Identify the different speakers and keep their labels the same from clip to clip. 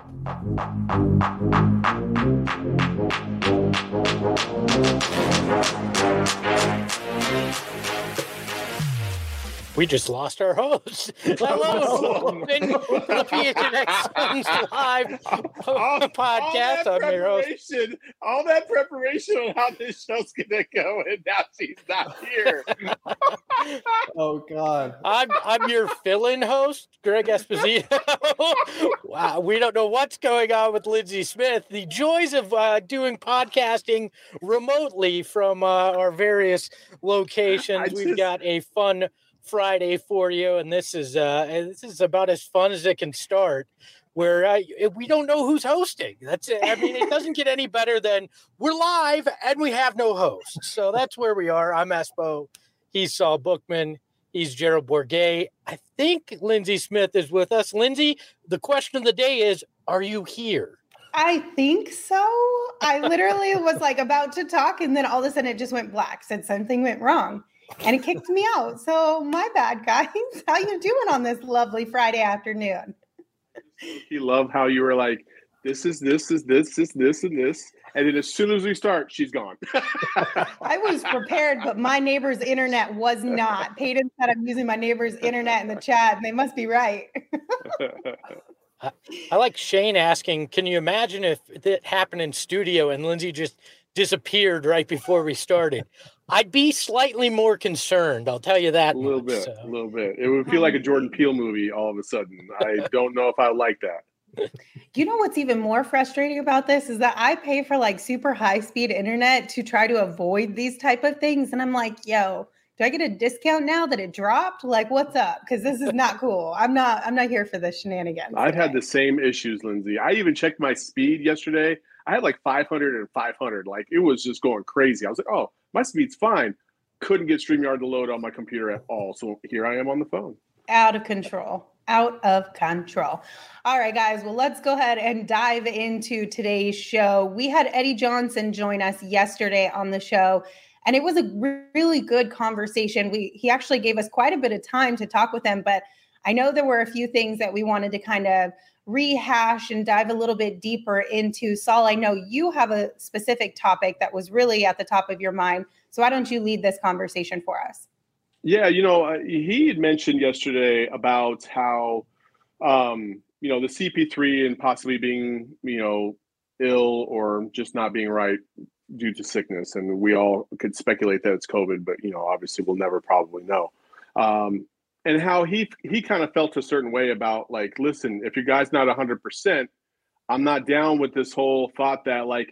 Speaker 1: We just lost our host. Hello, welcome to the PHNX Suns Live podcast. I'm your host.
Speaker 2: All that preparation on how this show's gonna go, and now she's not here.
Speaker 3: Oh God!
Speaker 1: I'm your fill-in host, Greg Esposito. Wow, we don't know what's going on with Lindsey Smith. The joys of doing podcasting remotely from our various locations. We've got a fun Friday for you, and this is about as fun as it can start, where we don't know who's hosting. That's it. I mean, it doesn't get any better than we're live and we have no host. So that's where we are. I'm Espo. He's Saul Bookman. He's Gerald Bourguet. I think Lindsey Smith is with us. Lindsey, the question of the day is, are you here?
Speaker 4: I think so. I literally was like about to talk, and then all of a sudden it just went black. Said something went wrong. And it kicked me out. So my bad, guys. How you doing on this lovely Friday afternoon?
Speaker 2: You love how you were like, this is this, and this. And then as soon as we start, she's gone.
Speaker 4: I was prepared, but my neighbor's internet was not. Peyton said I'm using my neighbor's internet in the chat, and they must be right.
Speaker 1: I like Shane asking, can you imagine if it happened in studio and Lindsey just disappeared right before we started? I'd be slightly more concerned. I'll tell you that.
Speaker 2: A little bit. It would feel like a Jordan Peele movie all of a sudden. I don't know if I like that.
Speaker 4: You know what's even more frustrating about this is that I pay for like super high speed internet to try to avoid these type of things. And I'm like, yo, do I get a discount now that it dropped? Like, what's up? Because this is not cool. I'm not here for this shenanigans.
Speaker 2: I've had the same issues, Lindsey. I even checked my speed yesterday. I had like 500 and 500. Like, it was just going crazy. I was like, oh, my speed's fine. Couldn't get StreamYard to load on my computer at all. So here I am on the phone.
Speaker 4: Out of control. All right, guys. Well, let's go ahead and dive into today's show. We had Eddie Johnson join us yesterday on the show, and it was a really good conversation. He actually gave us quite a bit of time to talk with him, but I know there were a few things that we wanted to kind of rehash and dive a little bit deeper into. Saul, I know you have a specific topic that was really at the top of your mind. So why don't you lead this conversation for us?
Speaker 2: Yeah, he had mentioned yesterday about how, the CP3 and possibly being, ill or just not being right due to sickness. And we all could speculate that it's COVID, but, obviously we'll never probably know. And how he kind of felt a certain way about, like, listen, if your guy's not 100%, I'm not down with this whole thought that, like,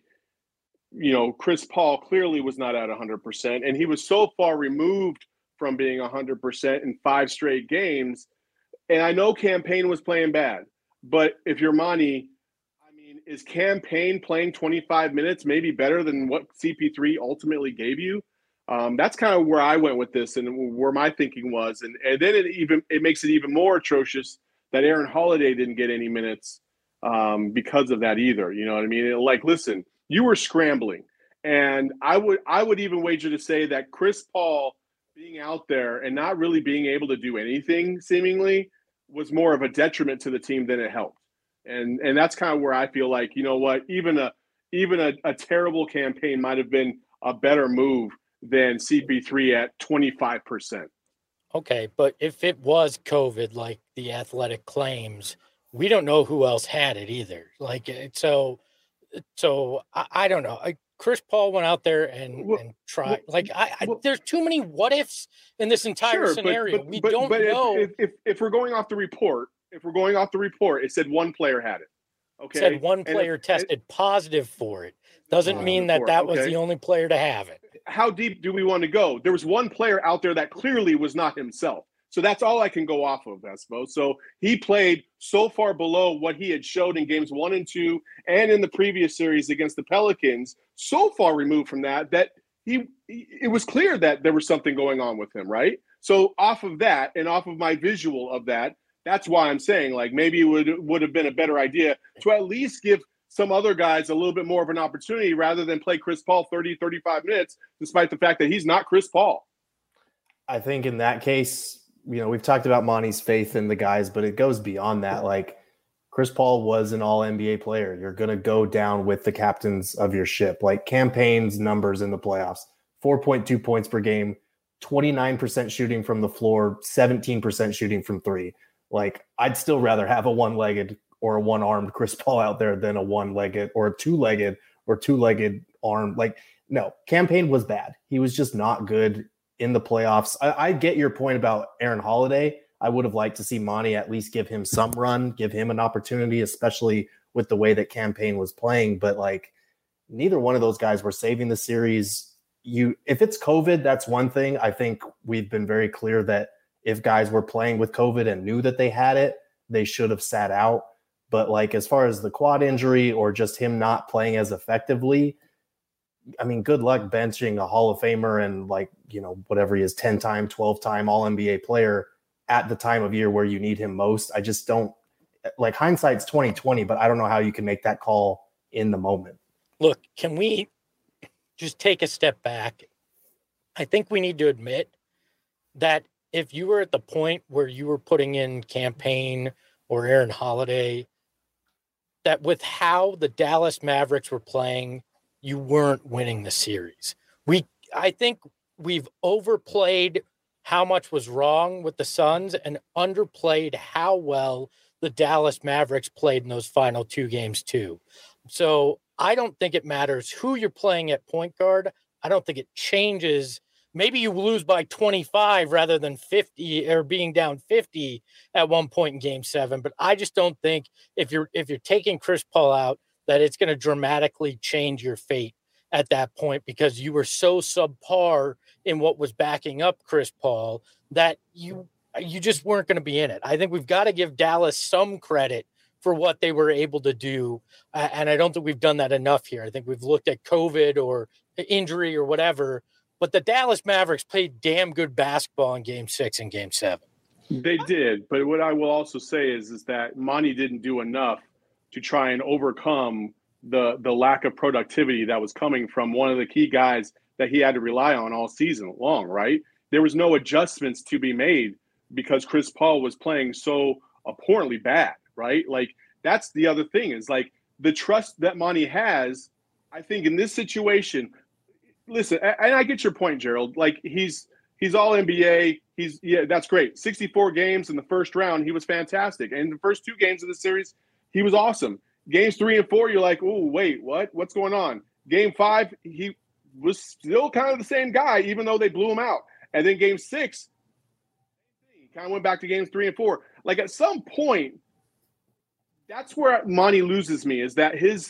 Speaker 2: Chris Paul clearly was not at 100%. And he was so far removed from being 100% in 5 straight games. And I know Cam Payne was playing bad. But if you're Monty, I mean, is Cam Payne playing 25 minutes maybe better than what CP3 ultimately gave you? That's kind of where I went with this and where my thinking was. And then it makes it even more atrocious that Aaron Holiday didn't get any minutes because of that either. You know what I mean? Like, listen, you were scrambling. And I would even wager to say that Chris Paul being out there and not really being able to do anything seemingly was more of a detriment to the team than it helped. And that's kind of where I feel like, you know what, even a terrible campaign might have been a better move than CP3 at 25%.
Speaker 1: Okay, but if it was COVID, like the Athletic claims, we don't know who else had it either. Like, so I don't know. Chris Paul went out there and tried. There's too many what ifs in this entire scenario. We don't know.
Speaker 2: If we're going off the report, it said one player had it. Okay,
Speaker 1: it said one player tested positive for it. Doesn't mean that was the only player to have it.
Speaker 2: How deep do we want to go? There was one player out there that clearly was not himself. So that's all I can go off of, Espo. So he played so far below what he had showed in games 1 and 2 and in the previous series against the Pelicans, so far removed from that it was clear that there was something going on with him, right? So off of that and off of my visual of that, that's why I'm saying, like, maybe it would have been a better idea to at least give some other guys a little bit more of an opportunity rather than play Chris Paul 30, 35 minutes, despite the fact that he's not Chris Paul.
Speaker 3: I think in that case, we've talked about Monty's faith in the guys, but it goes beyond that. Like, Chris Paul was an all-NBA player. You're going to go down with the captains of your ship. Like Cam Payne's numbers in the playoffs, 4.2 points per game, 29% shooting from the floor, 17% shooting from three. Like, I'd still rather have a one-legged or a one-armed Chris Paul out there than a one-legged or a two-legged arm. Like, no, Cam Payne was bad. He was just not good in the playoffs. I get your point about Aaron Holiday. I would have liked to see Monty at least give him some run, give him an opportunity, especially with the way that Cam Payne was playing. But like, neither one of those guys were saving the series. If it's COVID, that's one thing. I think we've been very clear that if guys were playing with COVID and knew that they had it, they should have sat out. But like, as far as the quad injury or just him not playing as effectively, I mean, good luck benching a Hall of Famer and like, whatever he is, 10-time, 12-time All-NBA player at the time of year where you need him most. I just don't like, hindsight's 2020, but I don't know how you can make that call in the moment.
Speaker 1: Look, can we just take a step back? I think we need to admit that if you were at the point where you were putting in Cam Payne or Aaron Holiday, that with how the Dallas Mavericks were playing, you weren't winning the series. I think we've overplayed how much was wrong with the Suns and underplayed how well the Dallas Mavericks played in those final two games too. So I don't think it matters who you're playing at point guard. I don't think it changes. Maybe you lose by 25 rather than 50 or being down 50 at one point in game 7. But I just don't think if you're taking Chris Paul out, that it's going to dramatically change your fate at that point, because you were so subpar in what was backing up Chris Paul that you just weren't going to be in it. I think we've got to give Dallas some credit for what they were able to do. And I don't think we've done that enough here. I think we've looked at COVID or injury or whatever, but the Dallas Mavericks played damn good basketball in game 6 and game 7.
Speaker 2: They did. But what I will also say is that Monty didn't do enough to try and overcome the lack of productivity that was coming from one of the key guys that he had to rely on all season long, right? There was no adjustments to be made because Chris Paul was playing so abhorrently bad, right? Like, that's the other thing is like the trust that Monty has, I think in this situation. Listen, and I get your point, Gerald. Like, he's all NBA. That's great. 64 games in the first round. He was fantastic. And the first 2 games of the series, he was awesome. Games 3 and 4, you're like, oh, wait, what? What's going on? Game 5, he was still kind of the same guy, even though they blew him out. And then game 6, he kind of went back to games 3 and 4. Like, at some point, that's where Monty loses me, is that his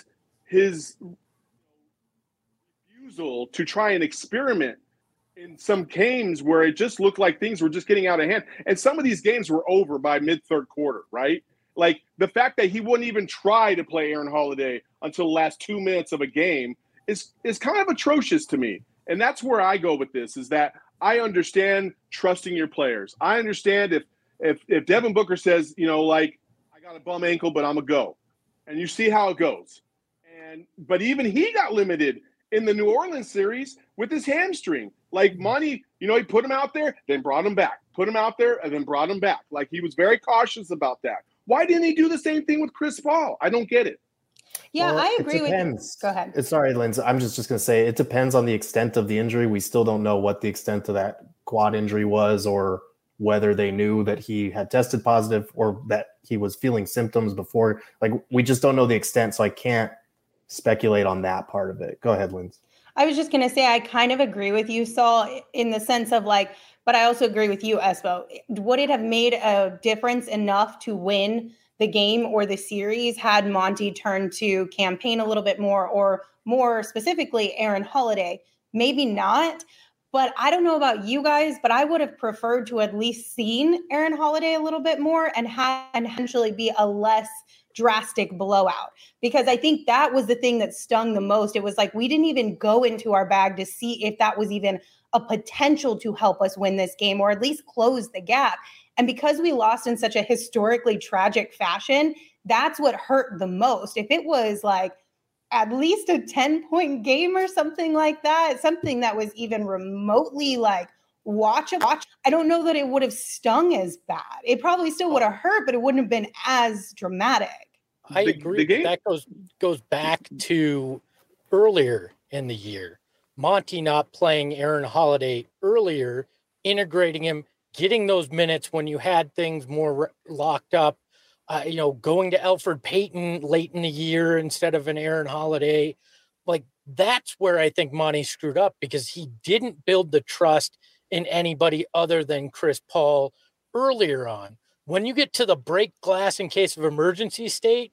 Speaker 2: refusal to try and experiment in some games where it just looked like things were just getting out of hand. And some of these games were over by mid-third quarter, right? Like, the fact that he wouldn't even try to play Aaron Holiday until the last 2 minutes of a game is kind of atrocious to me. And that's where I go with this, is that I understand trusting your players. I understand if Devin Booker says, like, I got a bum ankle, but I'm a go. And you see how it goes. But even he got limited in the New Orleans series with his hamstring. Like, Monty, he put him out there, then brought him back. Put him out there, and then brought him back. Like, he was very cautious about that. Why didn't he do the same thing with Chris Paul? I don't get it.
Speaker 4: Yeah, well, I agree with you. Go ahead.
Speaker 3: Sorry, Lindsay. I'm just going to say it depends on the extent of the injury. We still don't know what the extent of that quad injury was, or whether they knew that he had tested positive or that he was feeling symptoms before. Like, we just don't know the extent, so I can't speculate on that part of it. Go ahead, Lindsay.
Speaker 4: I was just going to say, I kind of agree with you, Saul, in the sense of like, but I also agree with you, Espo. Would it have made a difference enough to win the game or the series had Monty turned to Cam Payne a little bit more, or more specifically, Aaron Holiday? Maybe not. But I don't know about you guys, but I would have preferred to at least seen Aaron Holiday a little bit more and eventually be a less drastic blowout, because I think that was the thing that stung the most. It was like, we didn't even go into our bag to see if that was even a potential to help us win this game, or at least close the gap. And because we lost in such a historically tragic fashion, that's what hurt the most. If it was like at least a 10-point game or something like that, something that was even remotely like watchable, I don't know that it would have stung as bad. It probably still would have hurt, but it wouldn't have been as dramatic.
Speaker 1: I agree. That goes back to earlier in the year. Monty not playing Aaron Holiday earlier, integrating him, getting those minutes when you had things more locked up, going to Elfrid Payton late in the year instead of an Aaron Holiday. Like, that's where I think Monty screwed up, because he didn't build the trust in anybody other than Chris Paul earlier on. When you get to the break glass in case of emergency state,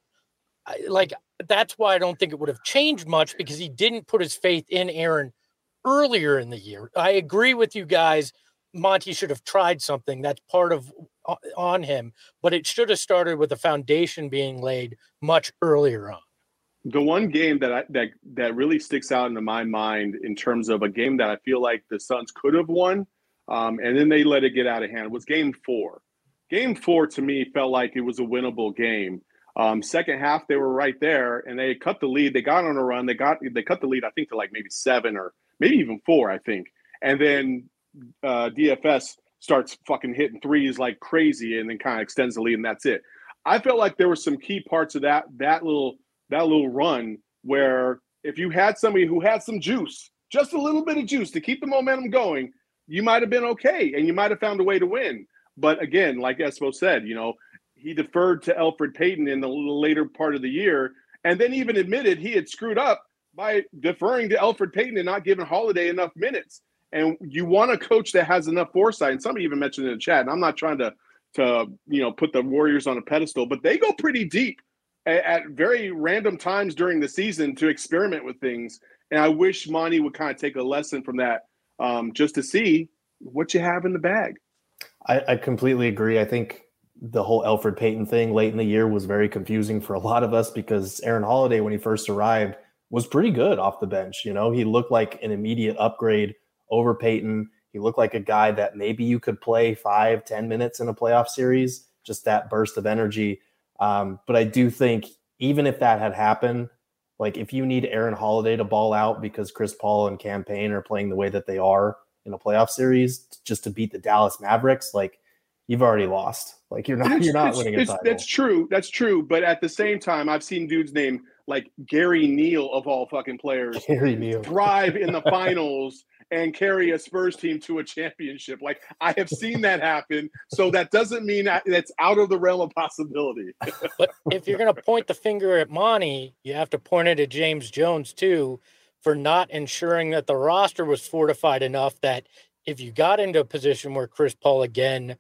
Speaker 1: that's why I don't think it would have changed much, because he didn't put his faith in Aaron earlier in the year. I agree with you guys. Monty should have tried something. That's part of on him, but it should have started with a foundation being laid much earlier on.
Speaker 2: The one game that really sticks out into my mind in terms of a game that I feel like the Suns could have won, and then they let it get out of hand, was Game 4. Game 4 to me felt like it was a winnable game. Second half, they were right there, and they cut the lead. They got on a run. They cut the lead, I think, to like maybe 7 or maybe even 4, I think. And then DFS starts fucking hitting threes like crazy, and then kind of extends the lead, and that's it. I felt like there were some key parts of that little run where if you had somebody who had some juice, just a little bit of juice to keep the momentum going, you might have been okay, and you might have found a way to win. But again, like Espo said, he deferred to Elfrid Payton in the later part of the year, and then even admitted he had screwed up by deferring to Elfrid Payton and not giving Holiday enough minutes. And you want a coach that has enough foresight. And somebody even mentioned in the chat, and I'm not trying to put the Warriors on a pedestal, but they go pretty deep at very random times during the season to experiment with things. And I wish Monty would kind of take a lesson from that, just to see what you have in the bag.
Speaker 3: I completely agree. I think the whole Elfrid Payton thing late in the year was very confusing for a lot of us, because Aaron Holiday, when he first arrived, was pretty good off the bench. He looked like an immediate upgrade over Payton. He looked like a guy that maybe you could play 5-10 minutes in a playoff series, just that burst of energy. But I do think even if that had happened, like if you need Aaron Holiday to ball out because Chris Paul and Cam Payne are playing the way that they are in a playoff series just to beat the Dallas Mavericks, like you've already lost. Like you're not winning a title.
Speaker 2: That's true. That's true. But at the same time, I've seen dudes named like Gary Neal of all fucking players thrive in the finals and carry a Spurs team to a championship. Like I have seen that happen. So that doesn't mean that's out of the realm of possibility.
Speaker 1: But if you're going to point the finger at Monty, you have to point it at James Jones too, for not ensuring that the roster was fortified enough that if you got into a position where Chris Paul again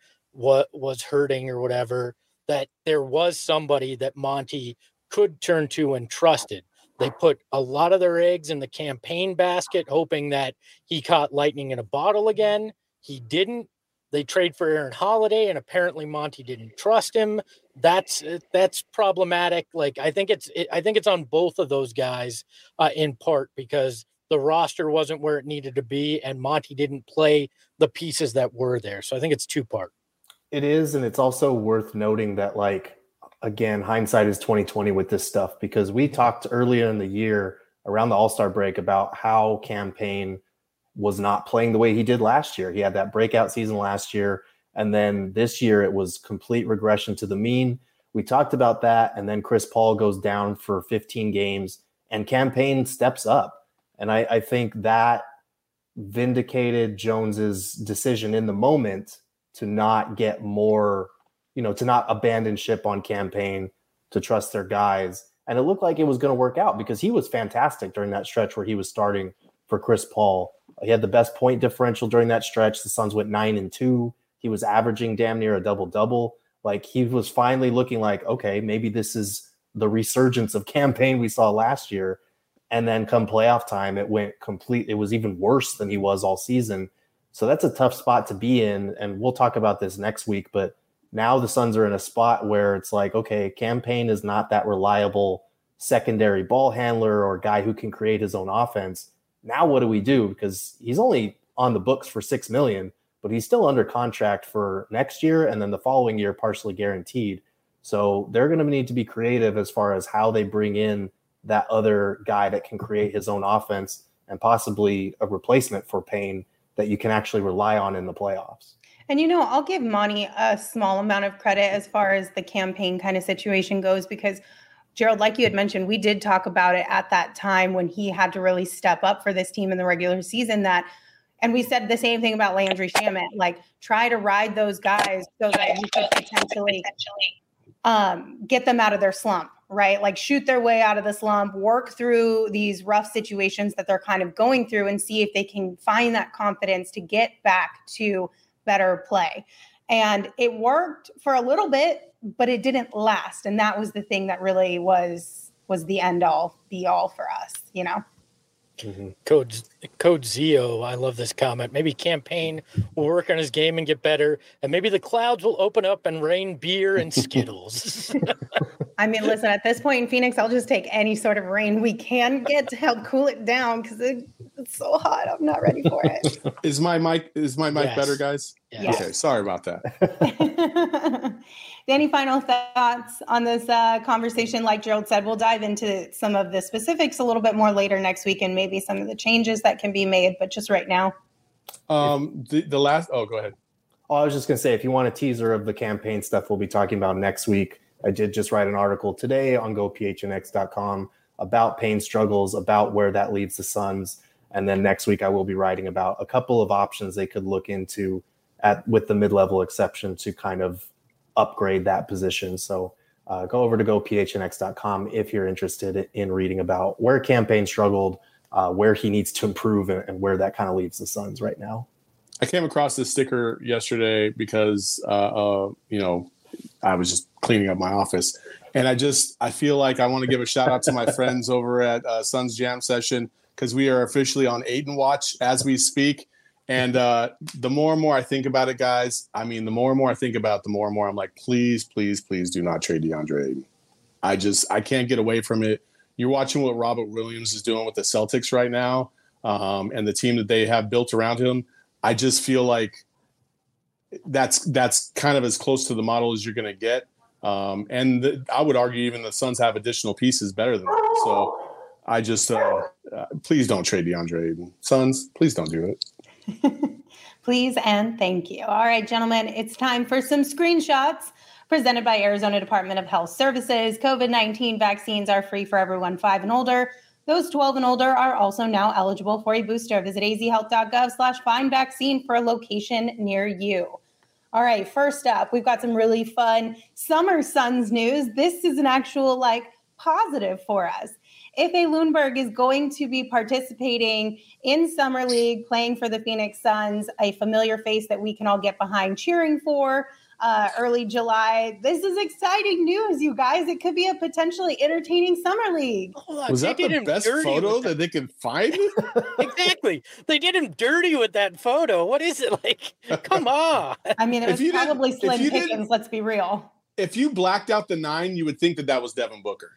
Speaker 1: was hurting or whatever, that there was somebody that Monty could turn to and trusted. They put a lot of their eggs in the Cam Payne basket, hoping that he caught lightning in a bottle again. He didn't. They trade for Aaron Holiday, and apparently Monty didn't trust him. That's problematic. Like I think it's on both of those guys in part, because the roster wasn't where it needed to be, and Monty didn't play the pieces that were there. So I think it's two-part.
Speaker 3: It is, and it's also worth noting that, like, again, hindsight is 20/20 with this stuff, because we talked earlier in the year around the All-Star break about how Cam Payne was not playing the way he did last year. He had that breakout season last year, and then this year it was complete regression to the mean. We talked about that, and then Chris Paul goes down for 15 games, and Cam Payne steps up. And I think that vindicated Jones's decision in the moment to not get more, to not abandon ship on Cam Payne, to trust their guys. And it looked like it was going to work out, because he was fantastic during that stretch where he was starting for Chris Paul. He had the best point differential during that stretch. The Suns went 9-2. He was averaging damn near a double-double. Like, he was finally looking like, okay, maybe this is the resurgence of Cam Payne we saw last year. And then come playoff time, it was even worse than he was all season. So that's a tough spot to be in. And we'll talk about this next week, but now the Suns are in a spot where it's like, okay, Cam Payne is not that reliable secondary ball handler or guy who can create his own offense. Now what do we do? Because he's only on the books for $6 million, but he's still under contract for next year and then the following year partially guaranteed. So they're going to need to be creative as far as how they bring in that other guy that can create his own offense and possibly a replacement for Payne that you can actually rely on in the playoffs.
Speaker 4: And, I'll give Monty a small amount of credit as far as the Cam Payne kind of situation goes, because Gerald, like you had mentioned, we did talk about it at that time when he had to really step up for this team in the regular season. And we said the same thing about Landry Shamet, like try to ride those guys so that you could potentially get them out of their slump, right? Like shoot their way out of the slump, work through these rough situations that they're kind of going through and see if they can find that confidence to get back to better play. And it worked for a little bit, but it didn't last. And that was the thing that really was the end all be all for us, you know?
Speaker 1: Mm-hmm. Code Zio, I love this comment. Maybe Campaign will work on his game and get better, and maybe the clouds will open up and rain beer and Skittles.
Speaker 4: I mean, listen, at this point in Phoenix, I'll just take any sort of rain we can get to help cool it down because it's so hot. I'm not ready for it.
Speaker 5: Is my mic yes. better, guys?
Speaker 1: Yes.
Speaker 5: Okay, sorry about that.
Speaker 4: Any final thoughts on this conversation? Like Gerald said, we'll dive into some of the specifics a little bit more later next week and maybe some of the changes that can be made. But just right now.
Speaker 5: The last. Oh, go ahead.
Speaker 3: Oh, I was just going to say, if you want a teaser of the campaign stuff we'll be talking about next week, I did just write an article today on gophnx.com about Payne's struggles, about where that leaves the Suns. And then next week I will be writing about a couple of options they could look into with the mid-level exception to kind of upgrade that position. So go over to gophnx.com if you're interested in reading about where Campaign struggled, where he needs to improve, and where that kind of leaves the Suns right now.
Speaker 5: I came across this sticker yesterday because, I was just cleaning up my office. And I feel like I want to give a shout out to my friends over at Suns Jam Session because we are officially on Ayton Watch as we speak. And the more and more I think about it, guys, the more and more I think about it, the more and more I'm like, please, please, please do not trade DeAndre Ayton. I can't get away from it. You're watching what Robert Williams is doing with the Celtics right now and the team that they have built around him. I just feel like that's kind of as close to the model as you're going to get. I would argue even the Suns have additional pieces better than that. So I just please don't trade DeAndre Ayton. Suns, please don't do it.
Speaker 4: Please and thank you. All right, gentlemen, it's time for some screenshots presented by Arizona Department of Health Services. COVID-19 vaccines are free for everyone 5 and older. Those 12 and older are also now eligible for a booster. Visit azhealth.gov/find-vaccine for a location near you. All right, first up, we've got some really fun Summer Suns news. This is an actual positive for us. Ife Lundberg is going to be participating in Summer League, playing for the Phoenix Suns, a familiar face that we can all get behind cheering for early July. This is exciting news, you guys. It could be a potentially entertaining Summer League.
Speaker 5: Was that the best photo that they could find?
Speaker 1: Exactly. They did him dirty with that photo. What is it like? Come on.
Speaker 4: I mean, it was probably Slim Pickens, let's be real.
Speaker 5: If you blacked out the 9, you would think that was Devin Booker.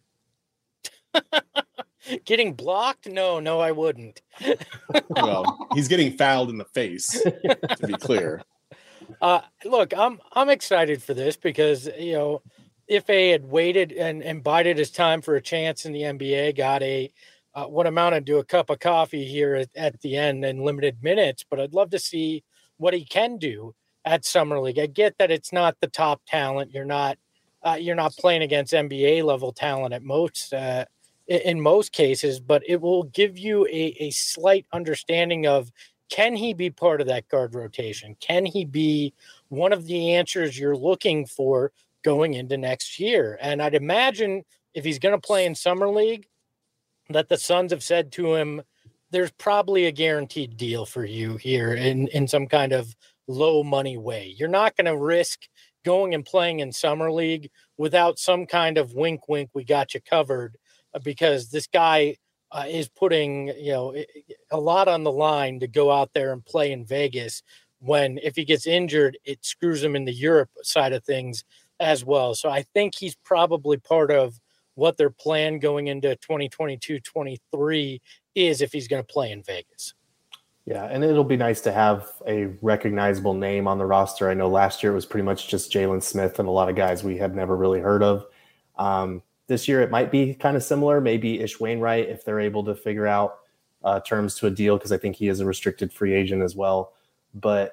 Speaker 1: Getting blocked? No, I wouldn't.
Speaker 5: Well, he's getting fouled in the face, to be clear.
Speaker 1: Look, I'm excited for this because, Ife had waited and bided his time for a chance in the NBA, got what amounted to a cup of coffee here at the end in limited minutes, but I'd love to see what he can do at Summer League. I get that it's not the top talent. You're not playing against NBA level talent at most, in most cases, but it will give you a slight understanding of, can he be part of that guard rotation? Can he be one of the answers you're looking for going into next year? And I'd imagine if he's going to play in Summer League, that the Suns have said to him, there's probably a guaranteed deal for you here in some kind of low money way. You're not going to risk going and playing in Summer League without some kind of wink, wink, we got you covered, because this guy is putting, a lot on the line to go out there and play in Vegas when, if he gets injured, it screws him in the Europe side of things as well. So I think he's probably part of what their plan going into 2022-23 is if he's going to play in Vegas.
Speaker 3: Yeah, and it'll be nice to have a recognizable name on the roster. I know last year it was pretty much just Jalen Smith and a lot of guys we had never really heard of. This year it might be kind of similar, maybe Ish Wainwright if they're able to figure out terms to a deal, because I think he is a restricted free agent as well. But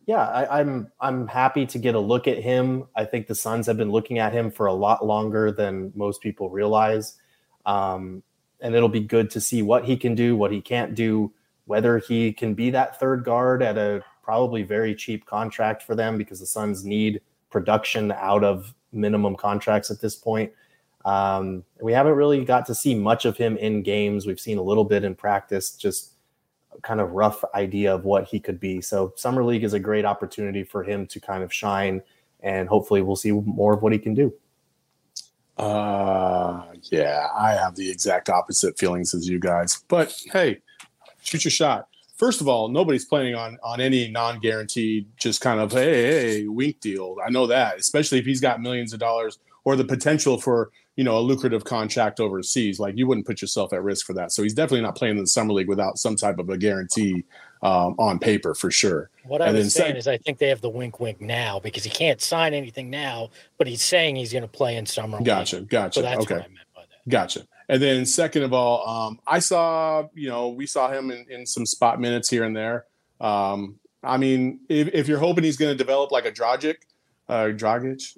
Speaker 3: Yeah, I'm happy to get a look at him. I think the Suns have been looking at him for a lot longer than most people realize. And it'll be good to see what he can do, what he can't do, whether he can be that third guard at a probably very cheap contract for them, because the Suns need production out of minimum contracts at this point. We haven't really got to see much of him in games. We've seen a little bit in practice, just kind of rough idea of what he could be. So Summer League is a great opportunity for him to kind of shine, and hopefully we'll see more of what he can do.
Speaker 5: Yeah, I have the exact opposite feelings as you guys, but hey, shoot your shot. First of all, nobody's planning on any non-guaranteed, just kind of, hey, wink deal. I know that, especially if he's got millions of dollars or the potential for, a lucrative contract overseas. Like, you wouldn't put yourself at risk for that. So he's definitely not playing in the Summer League without some type of a guarantee on paper for sure.
Speaker 1: What I was saying is I think they have the wink now, because he can't sign anything now, but he's saying he's going to play in Summer League.
Speaker 5: Gotcha.
Speaker 1: So that's
Speaker 5: okay.
Speaker 1: what I meant by that.
Speaker 5: Gotcha. And then second of all, I saw, we saw him in some spot minutes here and there. I mean, if you're hoping he's going to develop like a Dragic, Dragic.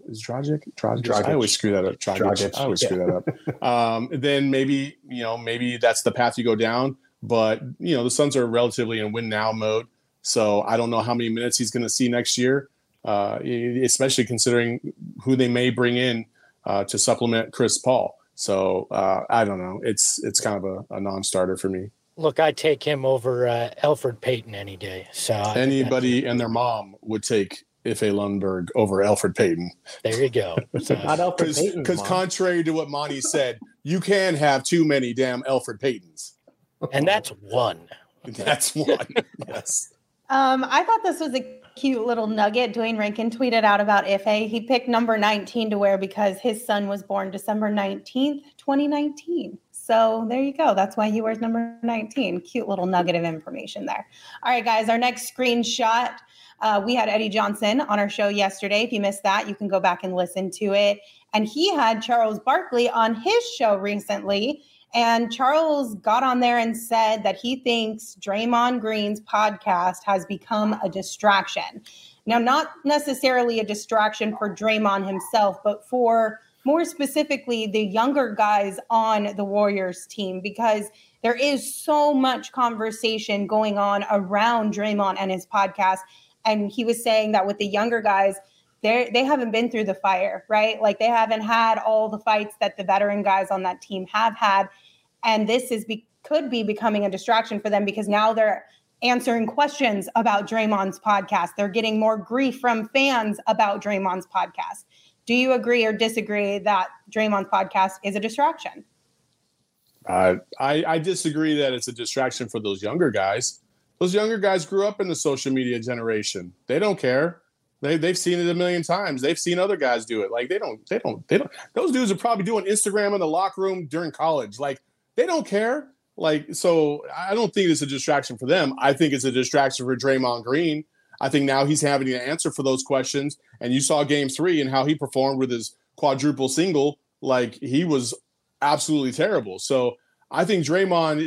Speaker 5: I always screw that up. Dragic. I always screw that up. Then maybe that's the path you go down. But the Suns are relatively in win now mode, so I don't know how many minutes he's going to see next year, especially considering who they may bring in to supplement Chris Paul. So I don't know. It's kind of a non-starter for me.
Speaker 1: Look, I take him over Elfrid Payton any day. So
Speaker 5: anybody and their mom would take Ife Lundberg over Elfrid Payton.
Speaker 1: There you go. So,
Speaker 3: not Elfrid Payton.
Speaker 5: Because contrary to what Monty said, you can have too many damn Elfrid Paytons.
Speaker 1: And that's one.
Speaker 5: That's one. Yes.
Speaker 4: I thought this was a cute little nugget. Dwayne Rankin tweeted out about Ife. He picked number 19 to wear because his son was born December 19th, 2019. So there you go. That's why he wears number 19. Cute little nugget of information there. All right, guys, our next screenshot. We had Eddie Johnson on our show yesterday. If you missed that, you can go back and listen to it. And he had Charles Barkley on his show recently. And Charles got on there and said that he thinks Draymond Green's podcast has become a distraction. Now, not necessarily a distraction for Draymond himself, but for more specifically the younger guys on the Warriors team, because there is so much conversation going on around Draymond and his podcast. And he was saying that with the younger guys, they haven't been through the fire, right? Like, they haven't had all the fights that the veteran guys on that team have had. And this could be becoming a distraction for them, because now they're answering questions about Draymond's podcast. They're getting more grief from fans about Draymond's podcast. Do you agree or disagree that Draymond's podcast is a distraction?
Speaker 5: I disagree that it's a distraction for those younger guys. Those younger guys grew up in the social media generation. They don't care. They've seen it a million times. They've seen other guys do it. Like, they don't. Those dudes are probably doing Instagram in the locker room during college. Like, they don't care. Like, so I don't think it's a distraction for them. I think it's a distraction for Draymond Green. I think now he's having to answer for those questions. And you saw Game 3 and how he performed with his quadruple single. Like, he was absolutely terrible. So I think Draymond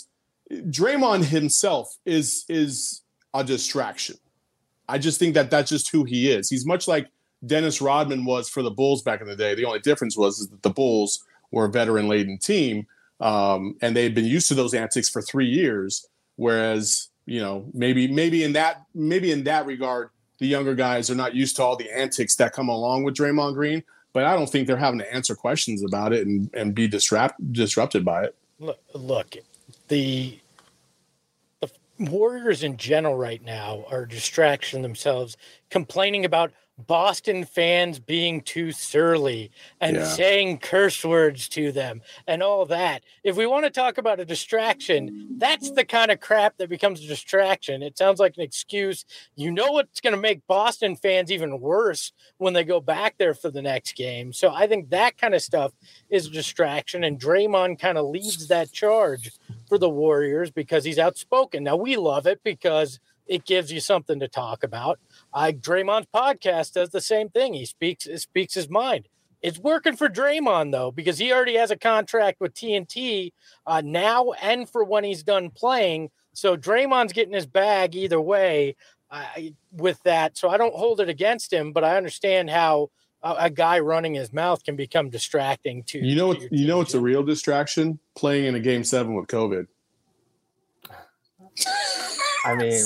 Speaker 5: himself is a distraction. I just think that that's just who he is. He's much like Dennis Rodman was for the Bulls back in the day. The only difference was that the Bulls were a veteran-laden team, and they'd been used to those antics for 3 years. Whereas, maybe in that regard, the younger guys are not used to all the antics that come along with Draymond Green. But I don't think they're having to answer questions about it and be disrupted by it.
Speaker 1: Look, the Warriors in general right now are distraction themselves, complaining about Boston fans being too surly and saying curse words to them and all that. If we want to talk about a distraction, that's the kind of crap that becomes a distraction. It sounds like an excuse. You know what's going to make Boston fans even worse when they go back there for the next game. So I think that kind of stuff is a distraction, and Draymond kind of leads that charge for the Warriors because he's outspoken. Now, we love it because it gives you something to talk about. Draymond's podcast does the same thing. He speaks his mind. It's working for Draymond, though, because he already has a contract with TNT now and for when he's done playing. So Draymond's getting his bag either way. with that. So I don't hold it against him, but I understand how a guy running his mouth can become distracting to
Speaker 5: it's a real distraction, playing in a Game 7 with COVID.
Speaker 3: I mean,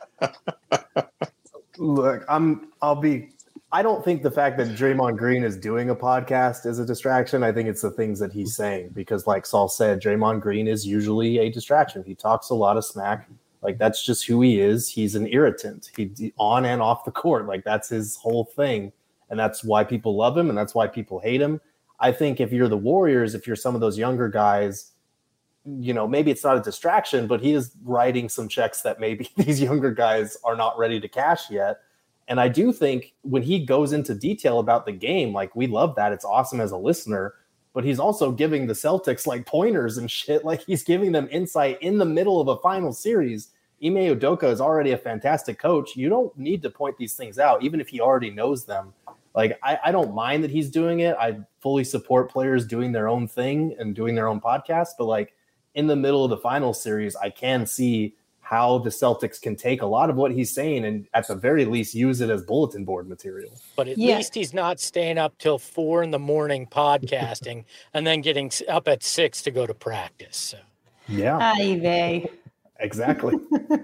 Speaker 3: look, I don't think the fact that Draymond Green is doing a podcast is a distraction. I think it's the things that he's saying, because like Saul said, Draymond Green is usually a distraction. He talks a lot of smack. Like, that's just who he is. He's an irritant. He on and off the court. Like, that's his whole thing. And that's why people love him, and that's why people hate him. I think if you're the Warriors, if you're some of those younger guys, maybe it's not a distraction, but he is writing some checks that maybe these younger guys are not ready to cash yet. And I do think when he goes into detail about the game, like, we love that. It's awesome as a listener, but he's also giving the Celtics like pointers and shit. Like, he's giving them insight in the middle of a final series. Ime Udoka is already a fantastic coach. You don't need to point these things out, even if he already knows them. Like, I don't mind that he's doing it. I fully support players doing their own thing and doing their own podcast. But like, in the middle of the final series, I can see how the Celtics can take a lot of what he's saying and at the very least use it as bulletin board material.
Speaker 1: But at least he's not staying up till 4 a.m. podcasting and then getting up at 6 to go to practice. So.
Speaker 3: Yeah. Exactly.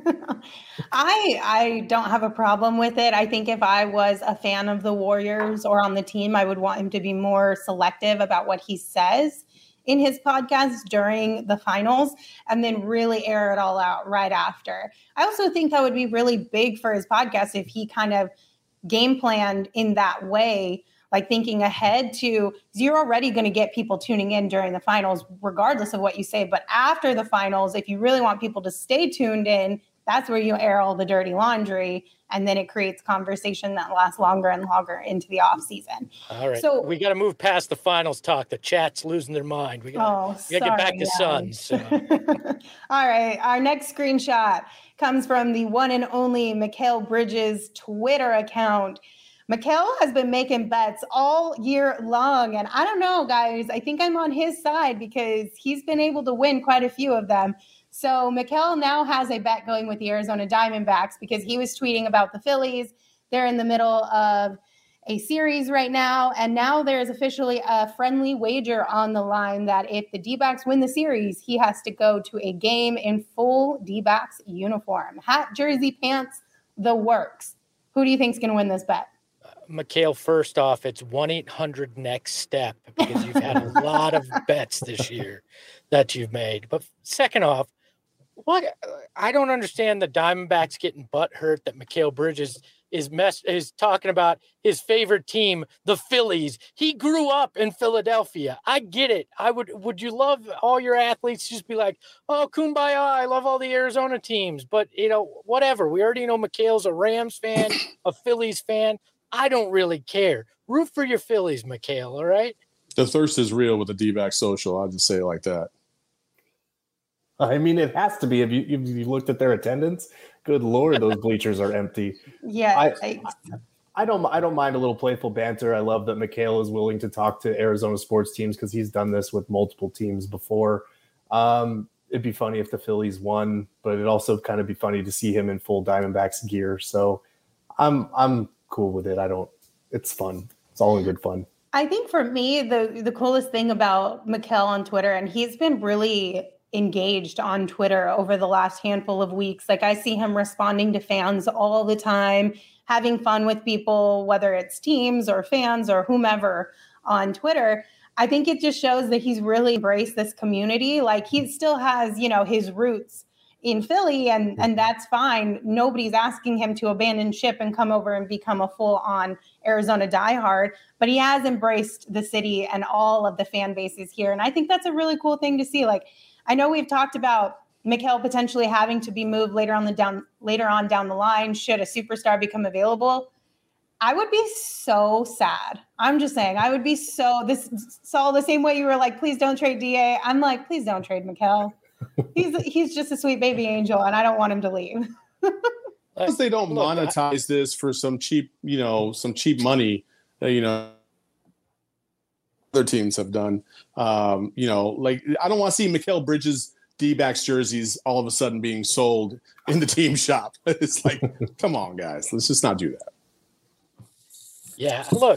Speaker 4: I don't have a problem with it. I think if I was a fan of the Warriors or on the team, I would want him to be more selective about what he says in his podcast during the finals and then really air it all out right after. I also think that would be really big for his podcast if he kind of game planned in that way, like thinking ahead to, you're already going to get people tuning in during the finals, regardless of what you say. But after the finals, if you really want people to stay tuned in, that's where you air all the dirty laundry. And then it creates conversation that lasts longer and longer into the off season.
Speaker 1: All right. So we got to move past the finals talk. The chat's losing their mind. We got to get back to Suns. So.
Speaker 4: All right. Our next screenshot comes from the one and only Mikal Bridges Twitter account. Mikal has been making bets all year long. And I don't know, guys, I think I'm on his side because he's been able to win quite a few of them. So Mikal now has a bet going with the Arizona Diamondbacks because he was tweeting about the Phillies. They're in the middle of a series right now. And now there's officially a friendly wager on the line that if the D-backs win the series, he has to go to a game in full D-backs uniform. Hat, jersey, pants, the works. Who do you think is going to win this bet?
Speaker 1: Mikal, first off, it's 1-800-NEXT-STEP because you've had a lot of bets this year that you've made. But second off, I don't understand the Diamondbacks getting butthurt that Mikal Bridges is talking about his favorite team, the Phillies. He grew up in Philadelphia. I get it. Would you love all your athletes to just be like, oh, kumbaya, I love all the Arizona teams. But, whatever. We already know Mikal's a Rams fan, a Phillies fan. I don't really care. Root for your Phillies, Mikal, all right?
Speaker 5: The thirst is real with the D-back social. I'll just say it like that.
Speaker 3: I mean, it has to be. If you looked at their attendance, good Lord, those bleachers are empty.
Speaker 4: Yeah.
Speaker 3: I don't mind a little playful banter. I love that Mikal is willing to talk to Arizona sports teams because he's done this with multiple teams before. It'd be funny if the Phillies won, but it'd also kind of be funny to see him in full Diamondbacks gear. So I'm cool with it. It's fun. It's all in good fun.
Speaker 4: I think for me, the coolest thing about Mikal on Twitter, and he's been really engaged on Twitter over the last handful of weeks. Like, I see him responding to fans all the time, having fun with people, whether it's teams or fans or whomever on Twitter. I think it just shows that he's really embraced this community. Like, he still has, his roots in Philly, and that's fine. Nobody's asking him to abandon ship and come over and become a full-on Arizona diehard, but he has embraced the city and all of the fan bases here. And I think that's a really cool thing to see. Like, I know we've talked about Mikal potentially having to be moved later on down the line should a superstar become available. I would be so sad. I'm just saying, I would be Saul, the same way you were like, please don't trade DA. I'm like, please don't trade Mikal. He's just a sweet baby angel, and I don't want him to leave.
Speaker 5: Because they don't monetize this for some cheap money that, other teams have done. Like, I don't want to see Mikal Bridges D-backs jerseys all of a sudden being sold in the team shop. It's like, come on, guys, let's just not do that.
Speaker 1: Yeah, look,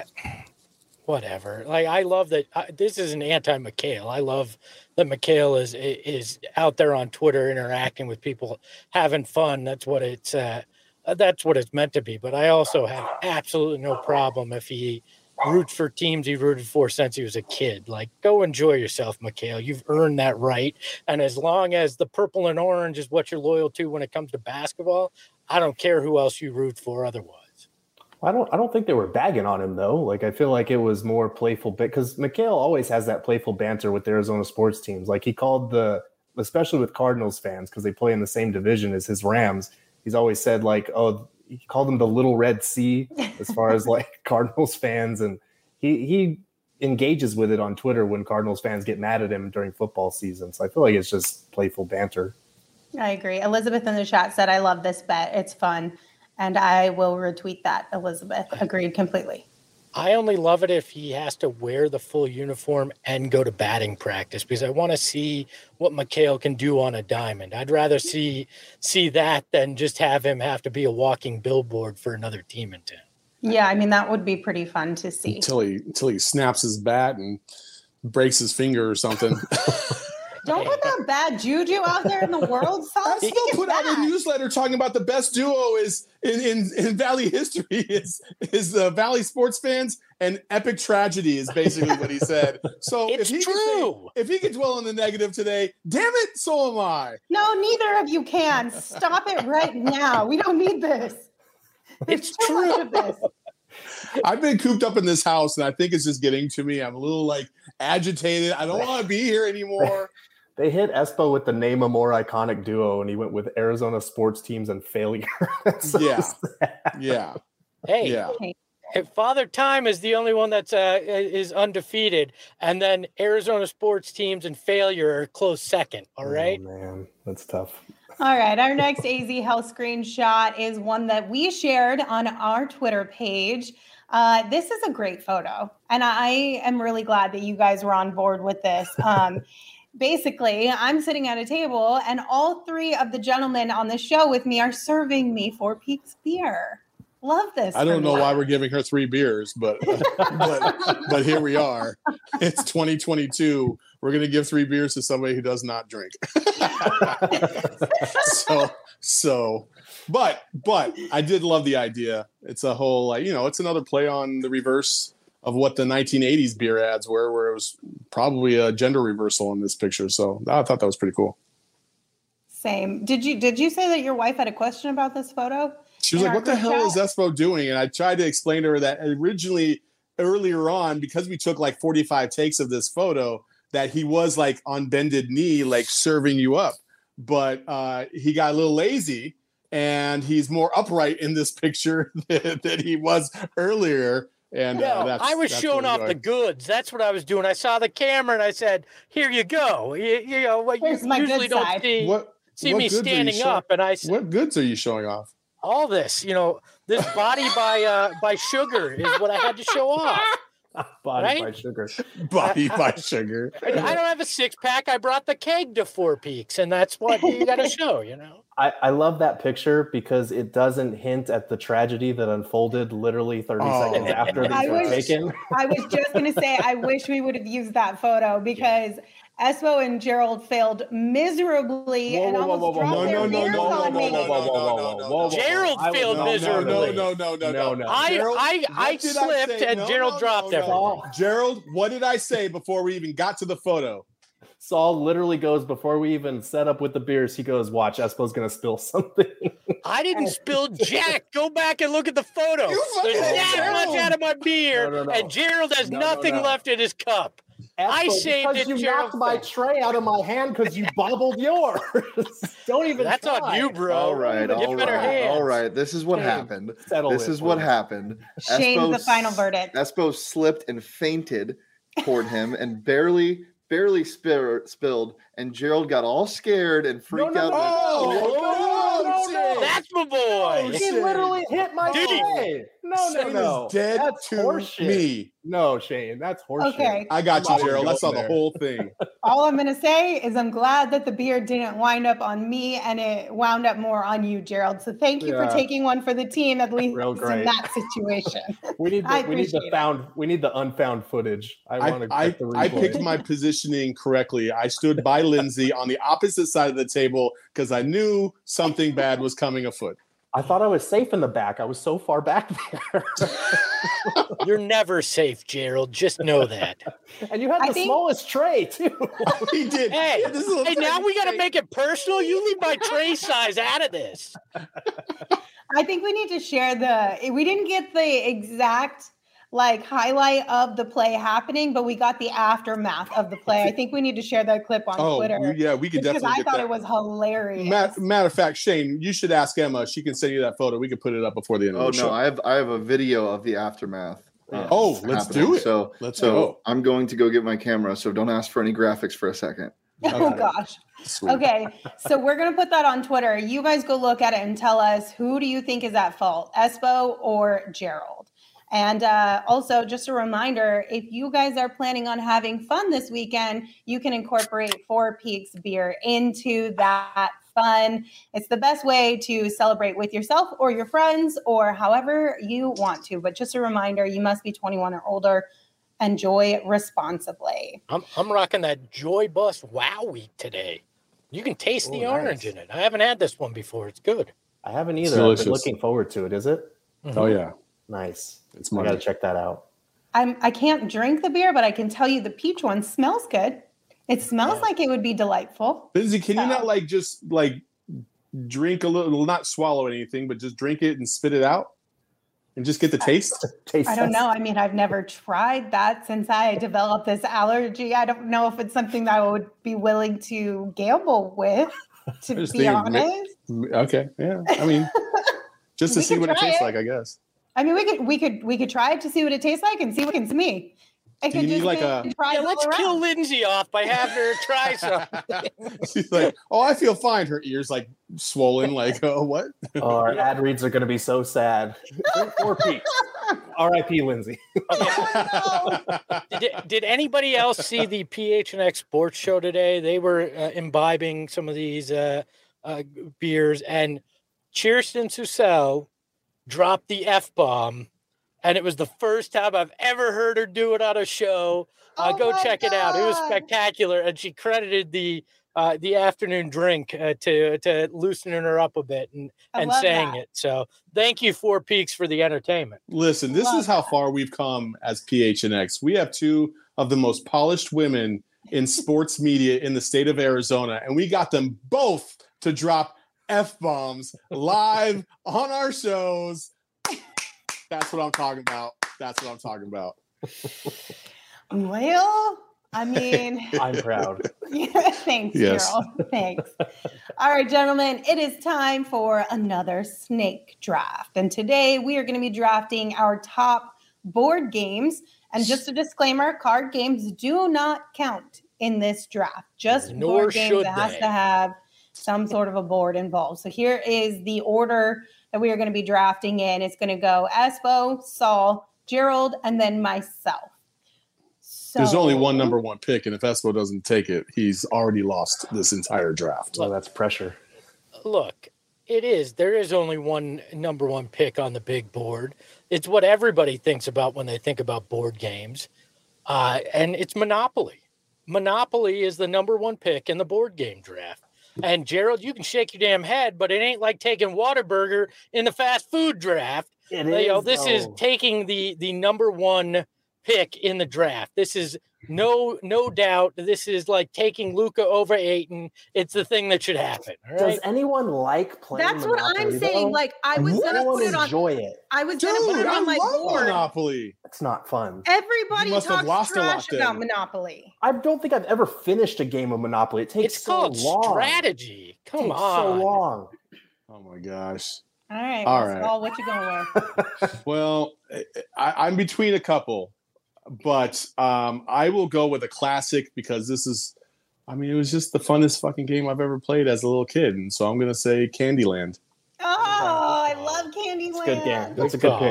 Speaker 1: whatever. Like, I love that. This is an anti-McHale. I love that McHale is out there on Twitter interacting with people, having fun. That's what it's meant to be. But I also have absolutely no problem if he roots for teams he rooted for since he was a kid. Like, go enjoy yourself, McHale. You've earned that right. And as long as the purple and orange is what you're loyal to when it comes to basketball, I don't care who else you root for otherwise.
Speaker 3: I don't think they were bagging on him though. Like, I feel like it was more playful because McHale always has that playful banter with the Arizona sports teams. Like, he called especially with Cardinals fans, because they play in the same division as his Rams. He's always said like, oh, he called them the Little Red Sea as far as like Cardinals fans. And he engages with it on Twitter when Cardinals fans get mad at him during football season. So I feel like it's just playful banter.
Speaker 4: I agree. Elizabeth in the chat said, I love this bet. It's fun. And I will retweet that, Elizabeth. Agreed completely.
Speaker 1: I only love it if he has to wear the full uniform and go to batting practice, because I want to see what McHale can do on a diamond. I'd rather see that than just have him have to be a walking billboard for another team in town.
Speaker 4: Yeah, I mean, that would be pretty fun to see.
Speaker 5: Until he snaps his bat and breaks his finger or something.
Speaker 4: Don't put that bad juju out there in the world.
Speaker 5: I still put out a newsletter talking about the best duo is in Valley history is the Valley sports fans, and epic tragedy is basically what he said. So
Speaker 1: it's true.
Speaker 5: If he can dwell on the negative today, damn it, so am I.
Speaker 4: No, neither of you can. Stop it right now. We don't need this.
Speaker 1: It's true.
Speaker 5: I've been cooped up in this house, and I think it's just getting to me. I'm a little like agitated. I don't want to be here anymore.
Speaker 3: They hit Espo with the name a more iconic duo, and he went with Arizona sports teams and failure.
Speaker 5: Yeah.
Speaker 1: Hey,
Speaker 5: yeah.
Speaker 1: If Father Time is the only one that's is undefeated, and then Arizona sports teams and failure are close second. All right.
Speaker 3: Oh, man, that's tough.
Speaker 4: All right. Our next AZ Health screenshot is one that we shared on our Twitter page. This is a great photo, and I am really glad that you guys were on board with this. Basically, I'm sitting at a table, and all three of the gentlemen on the show with me are serving me 4 Peaks beer. Love this.
Speaker 5: I don't know why we're giving her 3 beers, but here we are. It's 2022. We're going to give 3 beers to somebody who does not drink. But I did love the idea. It's a whole, it's another play on the reverse of what the 1980s beer ads were, where it was probably a gender reversal in this picture. So I thought that was pretty cool.
Speaker 4: Same. Did you say that your wife had a question about this photo?
Speaker 5: She was like, what the hell is Espo doing? And I tried to explain to her that originally, earlier on, because we took like 45 takes of this photo, that he was like on bended knee, like serving you up. But he got a little lazy, and he's more upright in this picture than he was earlier. And
Speaker 1: I was showing off the goods. That's what I was doing. I saw the camera and I said, "Here you go." You know, what you usually don't see me standing up. And I said,
Speaker 5: "What goods are you showing off?"
Speaker 1: All this, this body by Sugar is what I had to show off.
Speaker 3: Body by Sugar.
Speaker 5: Body by Sugar.
Speaker 1: I don't have a 6-pack. I brought the keg to 4 Peaks, and that's what you got to show,
Speaker 3: I love that picture because it doesn't hint at the tragedy that unfolded literally 30 seconds after these were taken.
Speaker 4: I was just going to say, I wish we would have used that photo because Espo and Gerald failed miserably and almost dropped their beers on me.
Speaker 1: Gerald failed miserably.
Speaker 5: No.
Speaker 1: I slipped and Gerald dropped everything.
Speaker 5: Gerald, what did I say before we even got to the photo?
Speaker 3: Saul literally goes, before we even set up with the beers, he goes, watch, Espo's going to spill something.
Speaker 1: I didn't spill jack. Go back and look at the photo. There's that much out of my beer, and Gerald has nothing left in his cup.
Speaker 3: Espo,
Speaker 1: I saved it.
Speaker 3: You knocked my tray out of my hand because you bobbled yours. Don't even
Speaker 1: That's
Speaker 3: try.
Speaker 1: on you, bro.
Speaker 6: All right. This is what happened. Happened.
Speaker 4: Shane's the final verdict.
Speaker 6: Espo slipped and fainted toward him and barely spilled, and Gerald got all scared and freaked out.
Speaker 1: No, that's my boy.
Speaker 3: He literally hit my tray.
Speaker 5: Shane
Speaker 3: no.
Speaker 5: is dead
Speaker 3: That's
Speaker 5: to
Speaker 3: horseshit.
Speaker 5: me.
Speaker 3: No, Shane, that's horseshit.
Speaker 4: Okay.
Speaker 5: I got you,
Speaker 3: I'm not
Speaker 5: Gerald. I
Speaker 3: going
Speaker 5: saw the
Speaker 3: there.
Speaker 5: whole thing.
Speaker 4: All I'm going to say is I'm glad that the beer didn't wind up on me and it wound up more on you, Gerald. So thank you for
Speaker 3: Yeah.
Speaker 4: taking one for the team, at least
Speaker 3: Real
Speaker 4: in
Speaker 3: great.
Speaker 4: that situation.
Speaker 3: We need
Speaker 4: I
Speaker 3: the
Speaker 4: appreciate it.
Speaker 3: we need the unfound footage.
Speaker 5: I
Speaker 3: I
Speaker 5: picked my positioning correctly. I stood by Lindsay on the opposite side of the table because I knew something bad was coming afoot.
Speaker 3: I thought I was safe in the back. I was so far back there.
Speaker 1: You're never safe, Gerald. Just know that.
Speaker 3: And you had the smallest tray too.
Speaker 5: He did.
Speaker 1: Hey,
Speaker 5: This little
Speaker 1: hey, now
Speaker 5: tiny
Speaker 1: we got to
Speaker 5: tray.
Speaker 1: make it personal. You leave my tray size out of this.
Speaker 4: I think we need to share we didn't get the exact highlight of the play happening, but we got the aftermath of the play. I think we need to share that clip on Twitter.
Speaker 5: Yeah, we could
Speaker 4: because
Speaker 5: definitely
Speaker 4: I
Speaker 5: get
Speaker 4: thought
Speaker 5: that.
Speaker 4: it was hilarious.
Speaker 5: Matter of fact, Shane, you should ask Emma. She can send you that photo. We can put it up before the end of the show.
Speaker 6: I have a video of the aftermath.
Speaker 5: Let's do it.
Speaker 6: So
Speaker 5: Let's go.
Speaker 6: I'm going to go get my camera. So don't ask for any graphics for a second.
Speaker 4: Oh gosh.
Speaker 5: Sweet.
Speaker 4: Okay, so we're gonna put that on Twitter. You guys go look at it and tell us, who do you think is at fault, Espo or Gerald? And also, just a reminder, if you guys are planning on having fun this weekend, you can incorporate Four Peaks beer into that fun. It's the best way to celebrate with yourself or your friends or however you want to. But just a reminder, you must be 21 or older. Enjoy responsibly.
Speaker 1: I'm rocking that Joy Bus Wow Week today. You can taste the orange in it. I haven't had this one before. It's good.
Speaker 3: I haven't either. I've been looking forward to it. Is it?
Speaker 5: Mm-hmm. Oh yeah.
Speaker 3: Nice.
Speaker 5: It's
Speaker 3: I got to check that out.
Speaker 4: I can't drink the beer, but I can tell you the peach one smells good. It smells like it would be delightful.
Speaker 5: Lindsay, can you not just drink a little, not swallow anything, but just drink it and spit it out and just get the taste?
Speaker 4: I don't know. I mean, I've never tried that since I developed this allergy. I don't know if it's something that I would be willing to gamble with, to be honest.
Speaker 5: Okay. Yeah. I mean, just to see what it tastes like, I guess.
Speaker 4: I mean, we could try it to see what it tastes like and see what it's me.
Speaker 5: Do you need
Speaker 1: let's kill Lindsay off by having her try something.
Speaker 5: She's like, oh, I feel fine. Her ears swollen. What?
Speaker 3: Our ad reads are going to be so sad. 4 Peaks. R.I.P. Lindsay.
Speaker 1: Did anybody else see the PHNX Sports Show today? They were imbibing some of these beers, and Kirsten Susel dropped the F-bomb, and it was the first time I've ever heard her do it on a show. Go check it out. It was spectacular, and she credited the afternoon drink to loosening her up a bit and saying it. So thank you, Four Peaks, for the entertainment.
Speaker 5: Listen, this is how far we've come as PHNX. We have two of the most polished women in sports media in the state of Arizona, and we got them both to drop F-bombs live on our shows. That's what I'm talking about.
Speaker 4: Well, I mean,
Speaker 3: I'm proud.
Speaker 4: Thanks, Gerald. Thanks. All right, gentlemen, it is time for another snake draft. And today we are going to be drafting our top board games. And just a disclaimer, card games do not count in this draft. Just board games that has to have some sort of a board involved. So here is the order that we are going to be drafting in. It's going to go Espo, Saul, Gerald, and then myself. So,
Speaker 5: there's only one number one pick, and if Espo doesn't take it, he's already lost this entire draft.
Speaker 3: So that's pressure.
Speaker 1: Look, there is only one number one pick on the big board. It's what everybody thinks about when they think about board games. And it's Monopoly. Monopoly is the number one pick in the board game draft. And Gerald, you can shake your damn head, but it ain't like taking Whataburger in the fast food draft. This is taking the number one pick in the draft. This is no doubt. This is like taking Luka over Ayton. It's the thing that should happen. All right?
Speaker 3: Does anyone like playing?
Speaker 4: That's
Speaker 3: Monopoly,
Speaker 4: what I'm saying.
Speaker 3: though?
Speaker 4: I was gonna put it on.
Speaker 3: Enjoy it.
Speaker 4: I was gonna put it on my board.
Speaker 5: Monopoly.
Speaker 3: It's not fun.
Speaker 4: Everybody talks trash about Monopoly.
Speaker 3: I don't think I've ever finished a game of Monopoly. It takes
Speaker 1: it's
Speaker 3: so
Speaker 1: called
Speaker 3: long.
Speaker 1: Strategy. Come on.
Speaker 3: So long.
Speaker 5: Oh my gosh.
Speaker 4: All right. Saul, what you going with?
Speaker 5: Well, I'm between a couple, but I will go with a classic because it was just the funnest fucking game I've ever played as a little kid. And so I'm going to say Candyland.
Speaker 4: Oh, I love Candyland.
Speaker 3: It's a good game. That's a good pick.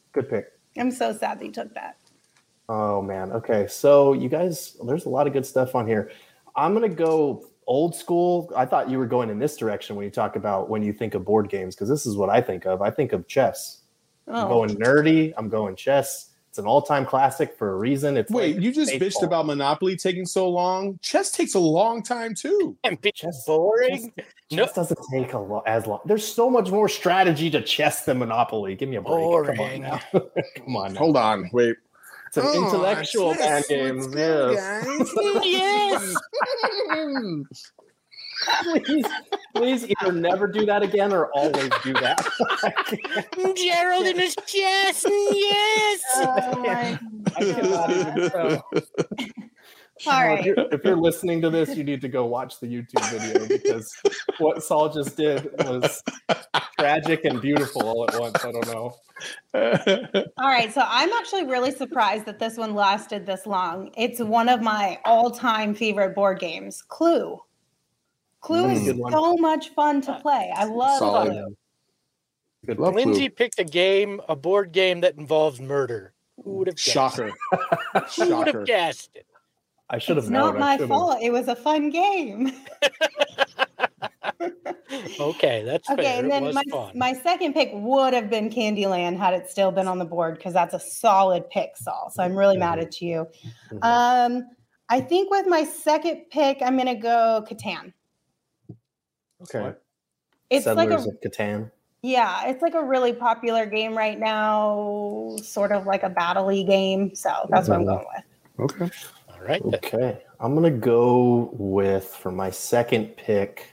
Speaker 3: Good pick.
Speaker 4: I'm so sad that you took that.
Speaker 3: Oh man. Okay. So you guys, there's a lot of good stuff on here. I'm gonna go old school. I thought you were going in this direction when you talk about when you think of board games, because this is what I think of. I think of chess. I'm going nerdy. I'm going chess. It's an all-time classic for a reason. It's
Speaker 5: Wait,
Speaker 3: like
Speaker 5: you just
Speaker 3: baseball.
Speaker 5: bitched about Monopoly taking so long. Chess takes a long time too.
Speaker 1: And be
Speaker 3: Chess-
Speaker 1: boring.
Speaker 3: Chess doesn't take as long. There's so much more strategy to chess than Monopoly. Give me a break.
Speaker 1: Boring.
Speaker 3: Come on now. Come on now.
Speaker 5: Hold on, wait.
Speaker 3: It's an intellectual man games. Yes.
Speaker 1: Yes.
Speaker 3: Please either never do that again or always do that.
Speaker 1: Gerald in his chest. Yes.
Speaker 4: Oh my
Speaker 3: I cannot even tell.
Speaker 4: All right.
Speaker 3: If you're listening to this, you need to go watch the YouTube video, because what Saul just did was tragic and beautiful all at once. I don't know.
Speaker 4: All right. So I'm actually really surprised that this one lasted this long. It's one of my all-time favorite board games, Clue. Clue is
Speaker 3: Good one.
Speaker 4: so much fun to play. I love
Speaker 5: Solid.
Speaker 4: Clue.
Speaker 3: Good
Speaker 5: Love
Speaker 3: pick.
Speaker 1: Lindsay picked a board game that involves murder. Who would have guessed?
Speaker 5: Shocker.
Speaker 1: Who would
Speaker 5: Shocker.
Speaker 1: have guessed it?
Speaker 3: I should have
Speaker 4: It's
Speaker 3: known.
Speaker 4: not
Speaker 3: I
Speaker 4: my
Speaker 3: should've.
Speaker 4: fault. It was a fun game.
Speaker 1: Okay, that's
Speaker 4: Okay,
Speaker 1: fair.
Speaker 4: and
Speaker 1: It
Speaker 4: then
Speaker 1: was fun.
Speaker 4: my second pick would have been Candyland had it still been on the board, because that's a solid pick, Saul. So I'm really mad at you.
Speaker 3: Mhm.
Speaker 4: I think with my second pick, I'm gonna go Catan.
Speaker 3: Okay.
Speaker 4: It's like
Speaker 3: Settlers
Speaker 4: a
Speaker 3: of Catan.
Speaker 4: it's like a really popular game right now, sort of like a battle-y game. So that's what I'm going with.
Speaker 5: Okay.
Speaker 1: All right. then.
Speaker 3: Okay. I'm going to go with, for my second pick,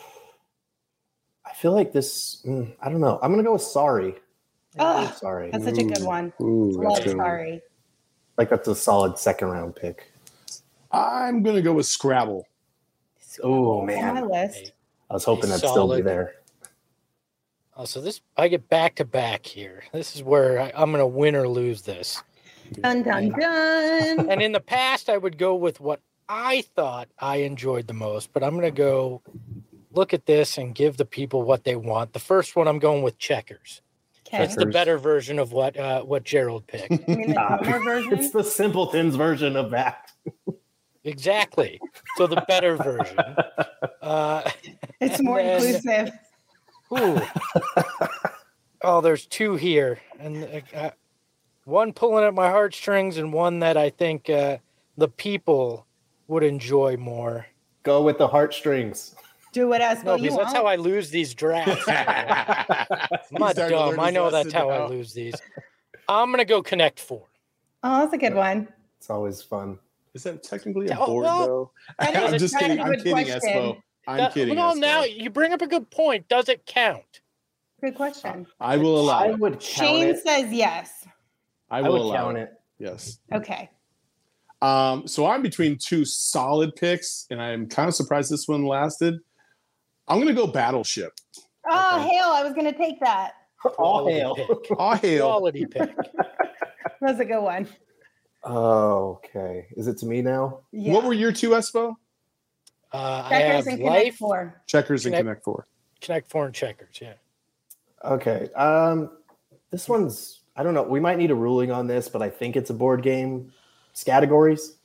Speaker 3: I feel like this, I don't know. I'm going to go with Sorry.
Speaker 4: Oh,
Speaker 3: Sorry.
Speaker 4: that's such a good one.
Speaker 5: Ooh,
Speaker 4: Love
Speaker 5: that's good.
Speaker 4: Sorry.
Speaker 3: Like that's a solid second round pick.
Speaker 5: I'm gonna go with Scrabble.
Speaker 3: Oh,
Speaker 4: On
Speaker 3: man.
Speaker 4: my list.
Speaker 3: I was hoping that'd still be
Speaker 1: Solid.
Speaker 3: there.
Speaker 1: Oh, so I get back to back here. This is where I'm going to win or lose this.
Speaker 4: Dun dun dun.
Speaker 1: And in the past, I would go with what I thought I enjoyed the most, but I'm going to go look at this and give the people what they want. The first one, I'm going with Checkers.
Speaker 4: Okay.
Speaker 1: That's the better version of what Gerald picked.
Speaker 4: You mean the dumber version?
Speaker 3: It's the simpletons version of that.
Speaker 1: Exactly. So the better version.
Speaker 4: It's
Speaker 1: and
Speaker 4: more
Speaker 1: then-
Speaker 4: inclusive.
Speaker 1: Ooh. Oh, there's two here, and one pulling at my heartstrings, and one that I think the people would enjoy more.
Speaker 3: Go with the heartstrings.
Speaker 4: Do what Espo
Speaker 1: No,
Speaker 4: you
Speaker 1: because
Speaker 4: want.
Speaker 1: that's how I lose these drafts. I'm not dumb. I know that's how I lose these. I'm gonna go Connect Four.
Speaker 4: Oh, that's a good one.
Speaker 3: It's always fun.
Speaker 5: Is that technically a
Speaker 1: Oh,
Speaker 5: board
Speaker 1: well,
Speaker 5: though?
Speaker 4: that is
Speaker 5: I'm
Speaker 4: a
Speaker 5: just
Speaker 4: kind
Speaker 5: kidding.
Speaker 4: of
Speaker 5: I'm
Speaker 4: good
Speaker 5: kidding,
Speaker 4: question.
Speaker 5: Espo. I'm kidding.
Speaker 1: Well,
Speaker 5: Espo.
Speaker 1: now you bring up a good point. Does it count?
Speaker 4: Good question.
Speaker 5: I will allow
Speaker 3: I
Speaker 5: it.
Speaker 3: would count
Speaker 4: Shane
Speaker 3: it.
Speaker 4: says yes.
Speaker 5: I
Speaker 3: I
Speaker 5: will
Speaker 3: would
Speaker 5: allow
Speaker 3: count
Speaker 5: it.
Speaker 3: it.
Speaker 5: Yes.
Speaker 4: Okay.
Speaker 5: So I'm between two solid picks, and I'm kind of surprised this one lasted. I'm gonna go Battleship.
Speaker 4: Oh,
Speaker 3: Okay.
Speaker 4: hail. I was going to take that.
Speaker 3: All
Speaker 1: Quality
Speaker 3: hail.
Speaker 1: pick.
Speaker 5: Oh hail!
Speaker 1: Quality pick.
Speaker 4: That's a good one.
Speaker 3: Oh, okay. Is it to me now?
Speaker 4: Yeah.
Speaker 5: What were your two, Espo?
Speaker 1: I
Speaker 4: Checkers
Speaker 1: have
Speaker 4: and Connect
Speaker 1: Life,
Speaker 4: 4.
Speaker 5: Checkers and
Speaker 1: Connect-
Speaker 5: Connect Four.
Speaker 1: Connect Four, and Checkers. Yeah.
Speaker 3: Okay. This one's, I don't know. We might need a ruling on this, but I think it's a board game. Categories.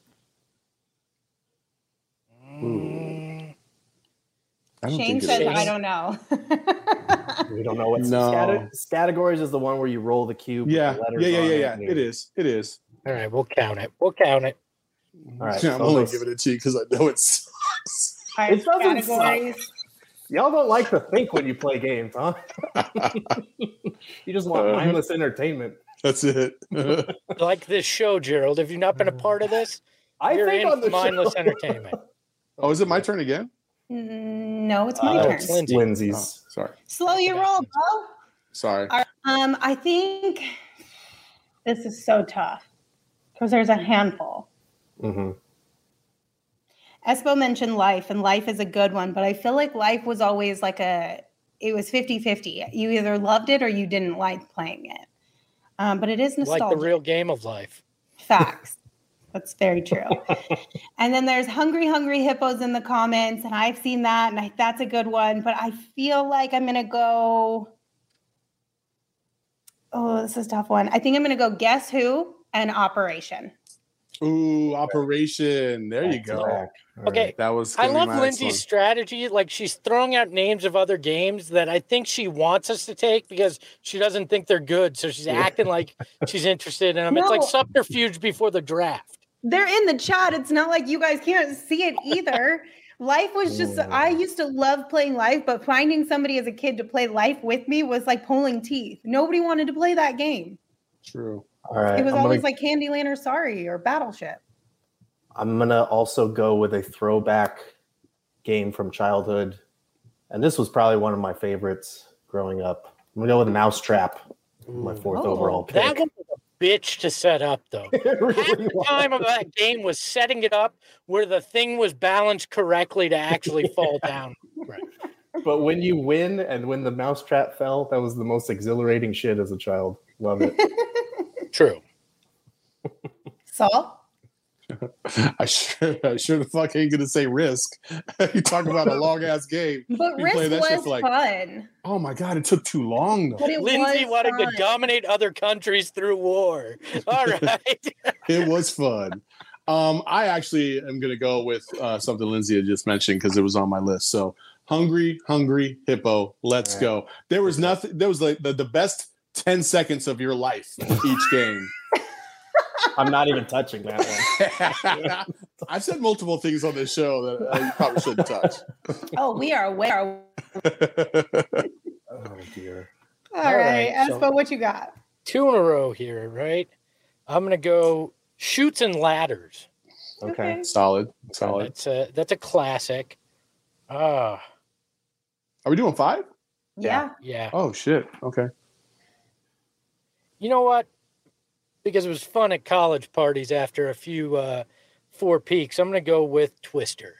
Speaker 1: Mm,
Speaker 5: I don't
Speaker 4: Shane
Speaker 5: think it
Speaker 4: says,
Speaker 5: is.
Speaker 4: I don't know.
Speaker 3: We don't know what's
Speaker 5: No.
Speaker 3: categories is the one where you roll the cube. with
Speaker 5: Yeah,
Speaker 3: the letters
Speaker 5: yeah.
Speaker 3: on
Speaker 5: It
Speaker 3: and you-
Speaker 5: is. It is.
Speaker 1: all right, we'll count it. We'll count it.
Speaker 3: All right,
Speaker 5: I'm
Speaker 3: so
Speaker 5: only
Speaker 3: those-
Speaker 5: giving it to you because I know it sucks.
Speaker 4: All right,
Speaker 3: It doesn't suck.
Speaker 4: categories.
Speaker 3: Y'all don't like to think when you play games, huh? You just want mindless entertainment.
Speaker 5: That's it.
Speaker 1: Like this show, Gerald. Have you not been a part of this?
Speaker 3: I
Speaker 1: You're
Speaker 3: think
Speaker 1: in
Speaker 3: on the
Speaker 1: mindless
Speaker 3: show.
Speaker 1: entertainment.
Speaker 5: Oh, is it my turn again?
Speaker 4: No, it's my
Speaker 1: Oh,
Speaker 4: turn.
Speaker 1: it's Lindsay.
Speaker 5: Oh,
Speaker 3: Lindsay's.
Speaker 5: sorry.
Speaker 4: Slow your roll, bro.
Speaker 5: Sorry.
Speaker 4: All right, I think this is so tough because there's a handful.
Speaker 3: Mm-hmm.
Speaker 4: Espo mentioned Life, and Life is a good one, but I feel like Life was always like it was 50-50. You either loved it or you didn't like playing it. But it is nostalgic.
Speaker 1: Like the real game of life.
Speaker 4: Facts. That's very true. And then there's Hungry Hippos in the comments, and I've seen that, and that's a good one. But I feel like I'm going to go Oh, this is a tough one. I think I'm going to go Guess Who and Operation.
Speaker 5: Ooh, Operation. There you
Speaker 3: Back to
Speaker 5: go.
Speaker 3: back. All
Speaker 1: Okay.
Speaker 3: right.
Speaker 5: That was.
Speaker 1: I
Speaker 5: gonna be
Speaker 1: love
Speaker 5: my next
Speaker 1: Lindsay's
Speaker 5: one.
Speaker 1: strategy. Like she's throwing out names of other games that I think she wants us to take because she doesn't think they're good. So she's acting like she's interested in them. It's like
Speaker 4: No.
Speaker 1: subterfuge before the draft.
Speaker 4: They're in the chat. It's not like you guys can't see it either. Life was just, I used to love playing Life, but finding somebody as a kid to play Life with me was like pulling teeth. Nobody wanted to play that game.
Speaker 5: True.
Speaker 3: All right.
Speaker 4: It was
Speaker 3: I'm
Speaker 4: always
Speaker 3: gonna,
Speaker 4: like Candyland or Sorry or Battleship.
Speaker 3: I'm gonna also go with a throwback game from childhood, and this was probably one of my favorites growing up. I'm gonna go with Mousetrap, my fourth overall pick.
Speaker 1: That one was a bitch to set up, though.
Speaker 3: It
Speaker 1: Half
Speaker 3: really
Speaker 1: the time of that game was setting it up where the thing was balanced correctly to actually fall down. Right.
Speaker 3: But when you win and when the mousetrap fell, that was the most exhilarating shit as a child. Love it.
Speaker 1: True.
Speaker 4: Saul?
Speaker 5: I sure the fuck ain't gonna say Risk. You talk about a long ass game.
Speaker 4: But
Speaker 5: You play
Speaker 4: Risk
Speaker 5: that shit
Speaker 4: was
Speaker 5: for like-
Speaker 4: fun.
Speaker 5: Oh my god, it took too long though.
Speaker 4: But it
Speaker 1: Lindsay
Speaker 4: was
Speaker 1: wanted to
Speaker 4: fun.
Speaker 1: dominate other countries through war. All right.
Speaker 5: It was fun. I actually am gonna go with something Lindsay had just mentioned because it was on my list. So Hungry Hippo. Let's go. There was nothing. There was like the best 10 seconds of your life each game.
Speaker 3: I'm not even touching that one.
Speaker 5: I've said multiple things on this show that you probably shouldn't touch.
Speaker 4: Oh, we are aware.
Speaker 3: Oh dear.
Speaker 4: All
Speaker 1: All
Speaker 4: right.
Speaker 1: right, so-
Speaker 4: Espo, what you got?
Speaker 1: 2 in a row here, right? I'm gonna go Shoots and Ladders.
Speaker 3: Okay.
Speaker 5: Solid.
Speaker 1: That's a classic.
Speaker 5: Are we doing 5?
Speaker 4: Yeah.
Speaker 1: Yeah.
Speaker 5: Oh shit. Okay.
Speaker 1: You know what? Because it was fun at college parties after a few 4 peaks, I'm gonna go with Twister.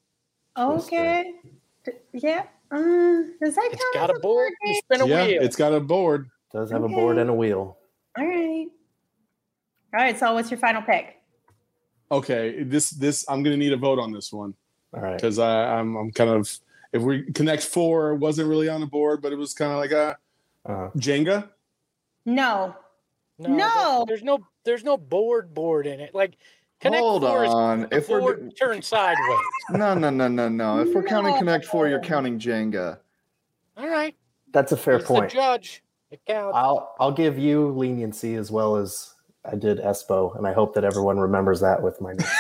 Speaker 4: Okay. Yeah. Does that
Speaker 1: It's
Speaker 4: count
Speaker 1: got
Speaker 4: as
Speaker 1: a board. You
Speaker 4: game?
Speaker 1: spin a
Speaker 5: Yeah,
Speaker 1: wheel.
Speaker 5: it's got a board.
Speaker 3: Does have a
Speaker 4: Okay.
Speaker 3: board and a wheel.
Speaker 4: All right. All right. So, what's your final pick?
Speaker 5: Okay, this I'm gonna need a vote on this one
Speaker 3: All right.
Speaker 5: because I'm kind of, if we Connect 4 wasn't really on the board, but it was kind of like a Jenga.
Speaker 4: No.
Speaker 1: No,
Speaker 4: No.
Speaker 1: there's no board in it. Like Connect
Speaker 6: Hold
Speaker 1: 4 is
Speaker 6: on.
Speaker 1: the
Speaker 6: If we're
Speaker 1: board turned sideways.
Speaker 6: no. If we're counting
Speaker 4: No.
Speaker 6: Connect 4, you're counting Jenga.
Speaker 1: All right.
Speaker 3: That's a fair
Speaker 1: He's
Speaker 3: point.
Speaker 1: the judge. It counts.
Speaker 3: I'll give you leniency as well as I did Espo, and I hope that everyone remembers that with my next.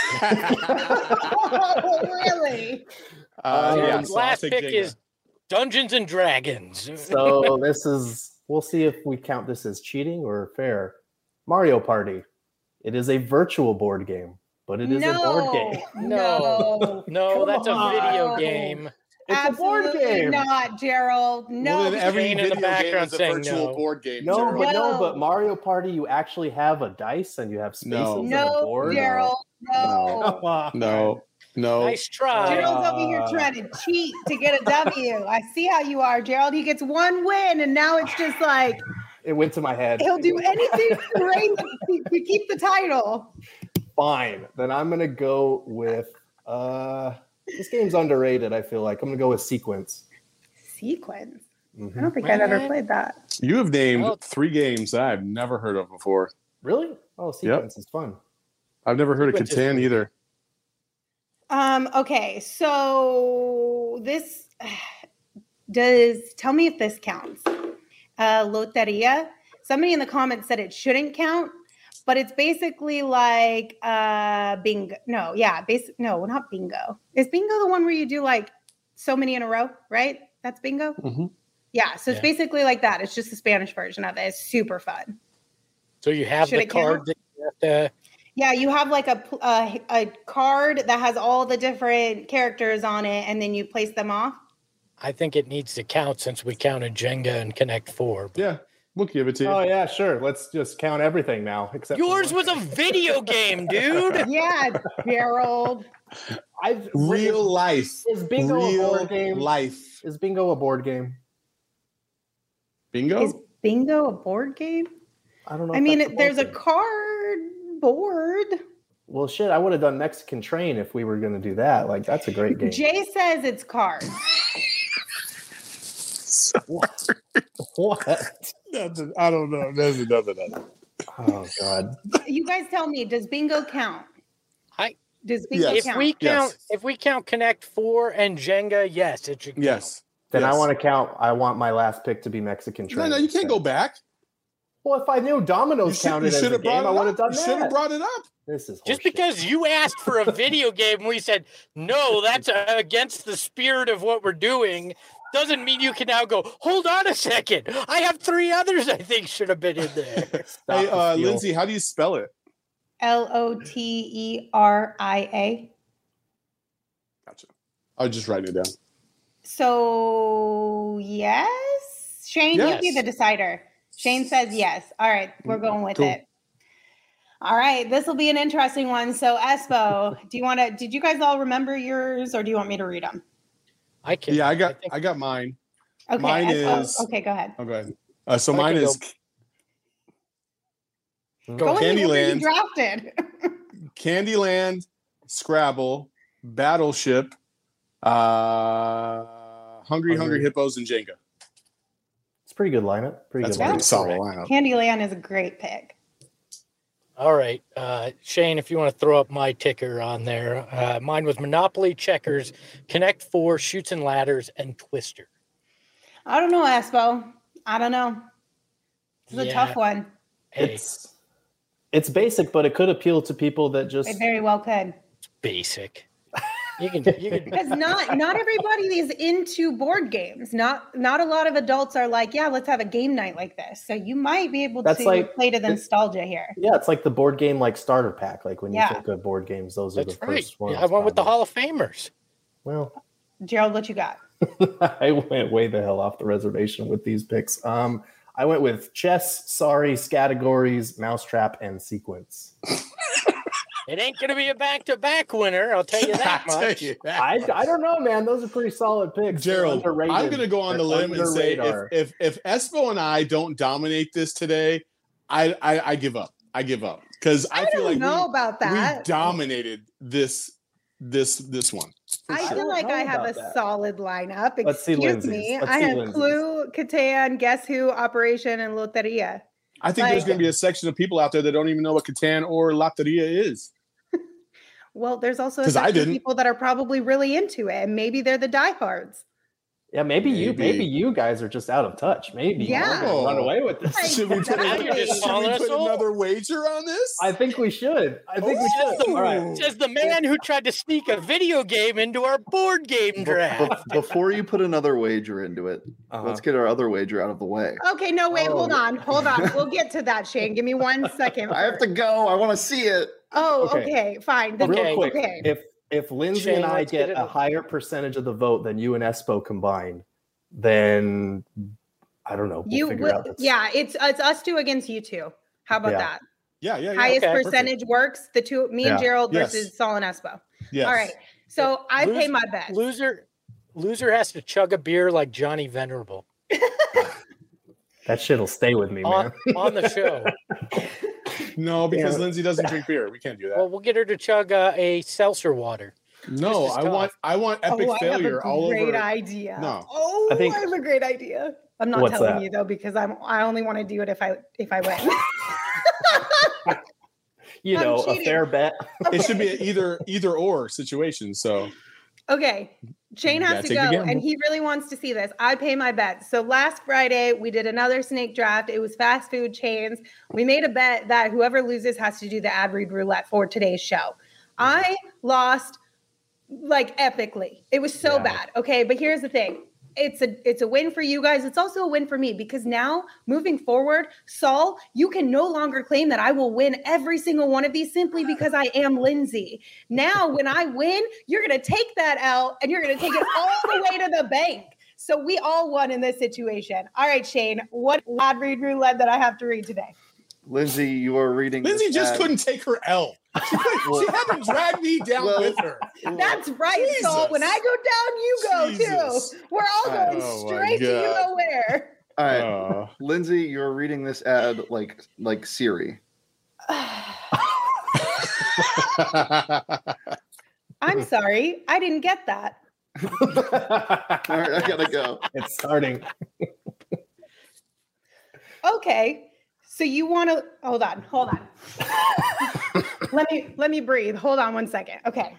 Speaker 4: Oh, really?
Speaker 5: Yeah,
Speaker 1: His
Speaker 5: so I'll
Speaker 1: last
Speaker 5: take
Speaker 1: pick
Speaker 5: Jenga.
Speaker 1: is Dungeons and Dragons.
Speaker 3: So we'll see if we count this as cheating or fair. Mario Party. It is a virtual board game, but it is a board game.
Speaker 4: No.
Speaker 1: No,
Speaker 3: Come
Speaker 1: that's a
Speaker 3: on.
Speaker 1: video game.
Speaker 3: It's a board
Speaker 4: Absolutely
Speaker 3: game.
Speaker 4: not, Gerald. No.
Speaker 5: Well, then every
Speaker 1: Jane in
Speaker 5: video
Speaker 1: the
Speaker 5: game
Speaker 1: background
Speaker 5: is a
Speaker 1: saying
Speaker 5: virtual
Speaker 1: no.
Speaker 5: board game.
Speaker 3: No,
Speaker 5: Gerald.
Speaker 3: but
Speaker 4: No.
Speaker 3: but Mario Party, you actually have a dice and you have spaces
Speaker 5: No.
Speaker 3: and a
Speaker 4: No,
Speaker 3: board.
Speaker 4: Gerald. No.
Speaker 3: Come on.
Speaker 5: No.
Speaker 1: Nice try.
Speaker 4: Gerald's over here trying to cheat to get a W. I see how you are, Gerald. He gets one win, and now it's just like
Speaker 3: It went to my head.
Speaker 4: he'll do anything to keep the title.
Speaker 3: Fine. Then I'm gonna go with this game's underrated, I feel like. I'm gonna go with Sequence.
Speaker 4: Sequence. I
Speaker 3: Mhm.
Speaker 4: don't think I've ever played that.
Speaker 5: You have named
Speaker 1: Well-
Speaker 5: 3 games that I've never heard of before.
Speaker 3: Really? Oh, Sequence is fun.
Speaker 5: I've never heard of
Speaker 1: Sequence is
Speaker 5: Catan
Speaker 1: cool.
Speaker 5: either.
Speaker 4: Okay, so this tell me if this counts. Loteria. Somebody in the comments said it shouldn't count, but it's basically like bingo. No, not bingo. Is bingo the one where you do like so many in a row, right? That's bingo?
Speaker 5: Mhm.
Speaker 4: Yeah, so it's
Speaker 1: Yeah.
Speaker 4: basically like that. It's just the Spanish version of it. It's super fun.
Speaker 1: So you have
Speaker 4: Should
Speaker 1: the
Speaker 4: it count?
Speaker 1: card that you have to.
Speaker 4: Yeah, you have like a card that has all the different characters on it, and then you place them off.
Speaker 1: I think it needs to count since we counted Jenga and Connect 4. but-
Speaker 5: Yeah, we'll give it to you.
Speaker 3: Oh yeah, sure. Let's just count everything now. Except for
Speaker 1: Yours
Speaker 3: one
Speaker 1: was a
Speaker 3: thing.
Speaker 1: video game, dude.
Speaker 4: Yeah, Gerald.
Speaker 5: Real life.
Speaker 3: Is bingo a
Speaker 5: Real
Speaker 3: board game?
Speaker 5: life.
Speaker 3: Is bingo a board game?
Speaker 5: Bingo?
Speaker 4: Is bingo a board game?
Speaker 3: I don't know.
Speaker 4: I
Speaker 3: if
Speaker 4: mean,
Speaker 3: that's
Speaker 4: there's a
Speaker 3: board game.
Speaker 4: card board.
Speaker 3: Well, shit, I would have done Mexican Train if we were going to do that. Like, that's a great game.
Speaker 4: Jay says it's cards.
Speaker 3: What?
Speaker 5: I don't know. There's nothing.
Speaker 3: Oh God.
Speaker 4: You guys tell me, does bingo count? Does bingo
Speaker 5: Yes.
Speaker 4: count?
Speaker 1: If we count Connect 4 and Jenga, yes, it should count.
Speaker 5: Yes.
Speaker 3: Then
Speaker 5: Yes.
Speaker 3: I want my last pick to be Mexican train.
Speaker 5: No, you can't go back.
Speaker 3: Well, if I knew dominoes counted as a game, I would have done
Speaker 5: You should have
Speaker 3: that.
Speaker 5: brought it up.
Speaker 3: This is
Speaker 1: Just
Speaker 3: horseshit.
Speaker 1: because you asked for a video game and we said, no, that's against the spirit of what we're doing, doesn't mean you can now go, hold on a second. I have 3 others I think should have been in there.
Speaker 3: Stop the
Speaker 5: Hey,
Speaker 3: steal.
Speaker 5: Lindsay, how do you spell it?
Speaker 4: LOTERIA.
Speaker 5: Gotcha. I'll just write it down.
Speaker 4: So yes, Shane,
Speaker 1: Yes.
Speaker 4: you be the decider. Shane says yes. All right, we're going with
Speaker 5: Cool.
Speaker 4: it. All right, this will be an interesting one. So Espo, did you guys all remember yours, or do you want me to read them?
Speaker 1: I can.
Speaker 5: Yeah, I
Speaker 1: think-
Speaker 5: got mine.
Speaker 4: Okay,
Speaker 5: Mine
Speaker 4: Espo.
Speaker 5: is-
Speaker 4: Okay, go ahead.
Speaker 5: Oh, go ahead. So
Speaker 1: I
Speaker 5: mine
Speaker 1: can
Speaker 5: is
Speaker 4: Go with the order you
Speaker 5: Candyland,
Speaker 4: drafted.
Speaker 5: Candyland, Scrabble, Battleship, Hungry Hippos, and Jenga.
Speaker 3: It's a pretty good lineup.
Speaker 5: That's a
Speaker 3: good
Speaker 5: pretty
Speaker 3: lineup.
Speaker 5: solid lineup.
Speaker 4: Candyland is a great pick.
Speaker 1: All right. Shane, if you want to throw up my ticker on there, mine was Monopoly, Checkers, Connect 4, Shoots and Ladders, and Twister.
Speaker 4: I don't know, Espo. I don't know. This is a
Speaker 1: Yeah.
Speaker 4: tough one.
Speaker 1: Hey,
Speaker 3: It's basic, but it could appeal to people that just
Speaker 4: It very well could.
Speaker 1: basic. You can
Speaker 4: Because not everybody is into board games. Not a lot of adults are like, yeah, let's have a game night like this. So you might be able
Speaker 3: That's
Speaker 4: to
Speaker 3: like-
Speaker 4: play to the nostalgia here.
Speaker 3: yeah, it's like the board game like starter pack. Like when you
Speaker 4: Yeah.
Speaker 3: think of board games, those are
Speaker 1: That's
Speaker 3: the
Speaker 1: right.
Speaker 3: first ones.
Speaker 1: Yeah, I went with the
Speaker 3: probably.
Speaker 1: Hall of Famers.
Speaker 3: Well,
Speaker 4: Gerald, what you got?
Speaker 3: I went way the hell off the reservation with these picks. I went with chess, sorry, categories, mousetrap, and sequence.
Speaker 1: It ain't going to be a back-to-back winner. I'll tell you that
Speaker 5: I'll tell
Speaker 1: much.
Speaker 5: you that.
Speaker 3: I don't know, man. Those are pretty solid picks. They're
Speaker 5: Gerald,
Speaker 3: underrated.
Speaker 5: I'm going to go on the
Speaker 3: They're
Speaker 5: limb and
Speaker 3: under
Speaker 5: say
Speaker 3: radar.
Speaker 5: if Espo and I don't dominate this today, I give up. I give up because I feel
Speaker 4: don't
Speaker 5: like
Speaker 4: know about
Speaker 5: we
Speaker 4: that.
Speaker 5: dominated this one.
Speaker 4: I
Speaker 3: sure.
Speaker 4: feel like
Speaker 3: I
Speaker 4: I
Speaker 3: don't know
Speaker 4: have a
Speaker 3: about that.
Speaker 4: solid lineup.
Speaker 3: Let's see
Speaker 4: Excuse
Speaker 3: Lindsay's.
Speaker 4: me.
Speaker 3: Let's
Speaker 4: I
Speaker 3: see
Speaker 4: have
Speaker 3: Lindsay's.
Speaker 4: Clue, Catan, Guess Who, Operation, and Loteria.
Speaker 5: I think there's
Speaker 4: Like-
Speaker 5: going to be a section of people out there that don't even know what Catan or Loteria is.
Speaker 4: Well, there's also a
Speaker 5: 'Cause I
Speaker 4: section of
Speaker 5: didn't.
Speaker 4: people that are probably really into it, and maybe they're the diehards.
Speaker 3: Yeah, maybe
Speaker 5: Maybe.
Speaker 3: you guys are just out of touch. Maybe
Speaker 4: Yeah.
Speaker 3: you're gonna run away with this.
Speaker 4: Like,
Speaker 5: Should we put,
Speaker 4: Now
Speaker 1: you're just
Speaker 5: should
Speaker 1: calling
Speaker 5: we
Speaker 1: us
Speaker 5: put
Speaker 1: old.
Speaker 5: another wager on this?
Speaker 3: I think we should. I think we should. All right.
Speaker 1: Says the man who tried to sneak a video game into our board game draft.
Speaker 6: Before you put another wager into it,
Speaker 3: Uh-huh.
Speaker 6: let's get our other wager out of the way.
Speaker 4: Okay, no, wait,
Speaker 3: Oh,
Speaker 4: hold on. We'll get to that, Shane. Give me 1 second.
Speaker 6: I have to go. I want to see it.
Speaker 4: Oh,
Speaker 3: Okay.
Speaker 4: okay, fine. Then-
Speaker 1: Okay.
Speaker 3: Real quick,
Speaker 4: Okay.
Speaker 3: if Lindsay
Speaker 1: Shane,
Speaker 3: and I
Speaker 1: let's get
Speaker 3: get
Speaker 1: it
Speaker 3: a
Speaker 1: over.
Speaker 3: higher percentage of the vote than you and Espo combined, then I don't know. We'll
Speaker 4: You
Speaker 3: figure
Speaker 4: will,
Speaker 3: out that's-
Speaker 4: yeah, it's us two against you two. How about
Speaker 3: Yeah.
Speaker 4: that?
Speaker 5: Yeah.
Speaker 4: Highest
Speaker 1: okay,
Speaker 4: percentage works. The two, me and
Speaker 3: Yeah.
Speaker 4: Gerald
Speaker 5: Yes.
Speaker 4: versus Saul and Espo.
Speaker 5: Yes.
Speaker 4: All right. So I
Speaker 1: Lose-
Speaker 4: pay my bet.
Speaker 1: Loser has to chug a beer like Johnny Venerable
Speaker 3: That shit'll stay with me,
Speaker 1: on,
Speaker 3: man.
Speaker 1: on the show.
Speaker 5: No, because
Speaker 3: Yeah.
Speaker 5: Lindsay doesn't drink beer. We can't do that.
Speaker 1: Well, we'll get her to chug a seltzer water.
Speaker 5: no,
Speaker 1: this is tough.
Speaker 5: I want epic
Speaker 4: I
Speaker 5: failure
Speaker 4: have a
Speaker 5: all
Speaker 4: great
Speaker 5: over.
Speaker 4: idea.
Speaker 5: No.
Speaker 4: Oh,
Speaker 3: I think-
Speaker 4: I have a great idea. I'm not
Speaker 3: What's
Speaker 4: telling
Speaker 3: that?
Speaker 4: you though because I only want to do it if I win.
Speaker 3: You
Speaker 4: I'm
Speaker 3: know, a
Speaker 4: cheating.
Speaker 3: fair bet.
Speaker 5: It should be an either or situation. So
Speaker 4: Okay. Shane
Speaker 5: You
Speaker 4: has
Speaker 5: gotta
Speaker 4: to
Speaker 5: take the
Speaker 4: go,
Speaker 5: gamble.
Speaker 4: and he really wants to see this. I pay my bet. So last Friday, we did another snake draft. It was fast food chains. We made a bet that whoever loses has to do the ad read roulette for today's show. I lost like epically. It was so
Speaker 3: Yeah.
Speaker 4: bad. Okay, but here's the thing. It's a win for you guys. It's also a win for me because now moving forward, Saul, you can no longer claim that I will win every single one of these simply because I am Lindsay. Now, when I win, you're going to take that out and you're going to take it all the way to the bank. So we all won in this situation. All right, Shane, what ad read roulette that I have to read today?
Speaker 6: Lindsay, you are reading.
Speaker 5: Lindsay
Speaker 6: this
Speaker 5: just
Speaker 6: ad.
Speaker 5: couldn't take her L. She had to drag me down
Speaker 6: Well-
Speaker 5: with her.
Speaker 4: That's right, Saul. When I go down, you go
Speaker 5: Jesus.
Speaker 4: too. We're all going
Speaker 5: Oh my
Speaker 4: straight to you
Speaker 5: God.
Speaker 4: know where.
Speaker 6: All right,
Speaker 5: Uh,
Speaker 6: Lindsay, you're reading this ad like Siri.
Speaker 4: I'm sorry. I didn't get that.
Speaker 6: All right, I gotta go.
Speaker 3: It's starting.
Speaker 4: Okay. So you want to hold on. let me breathe. Hold on one second. Okay.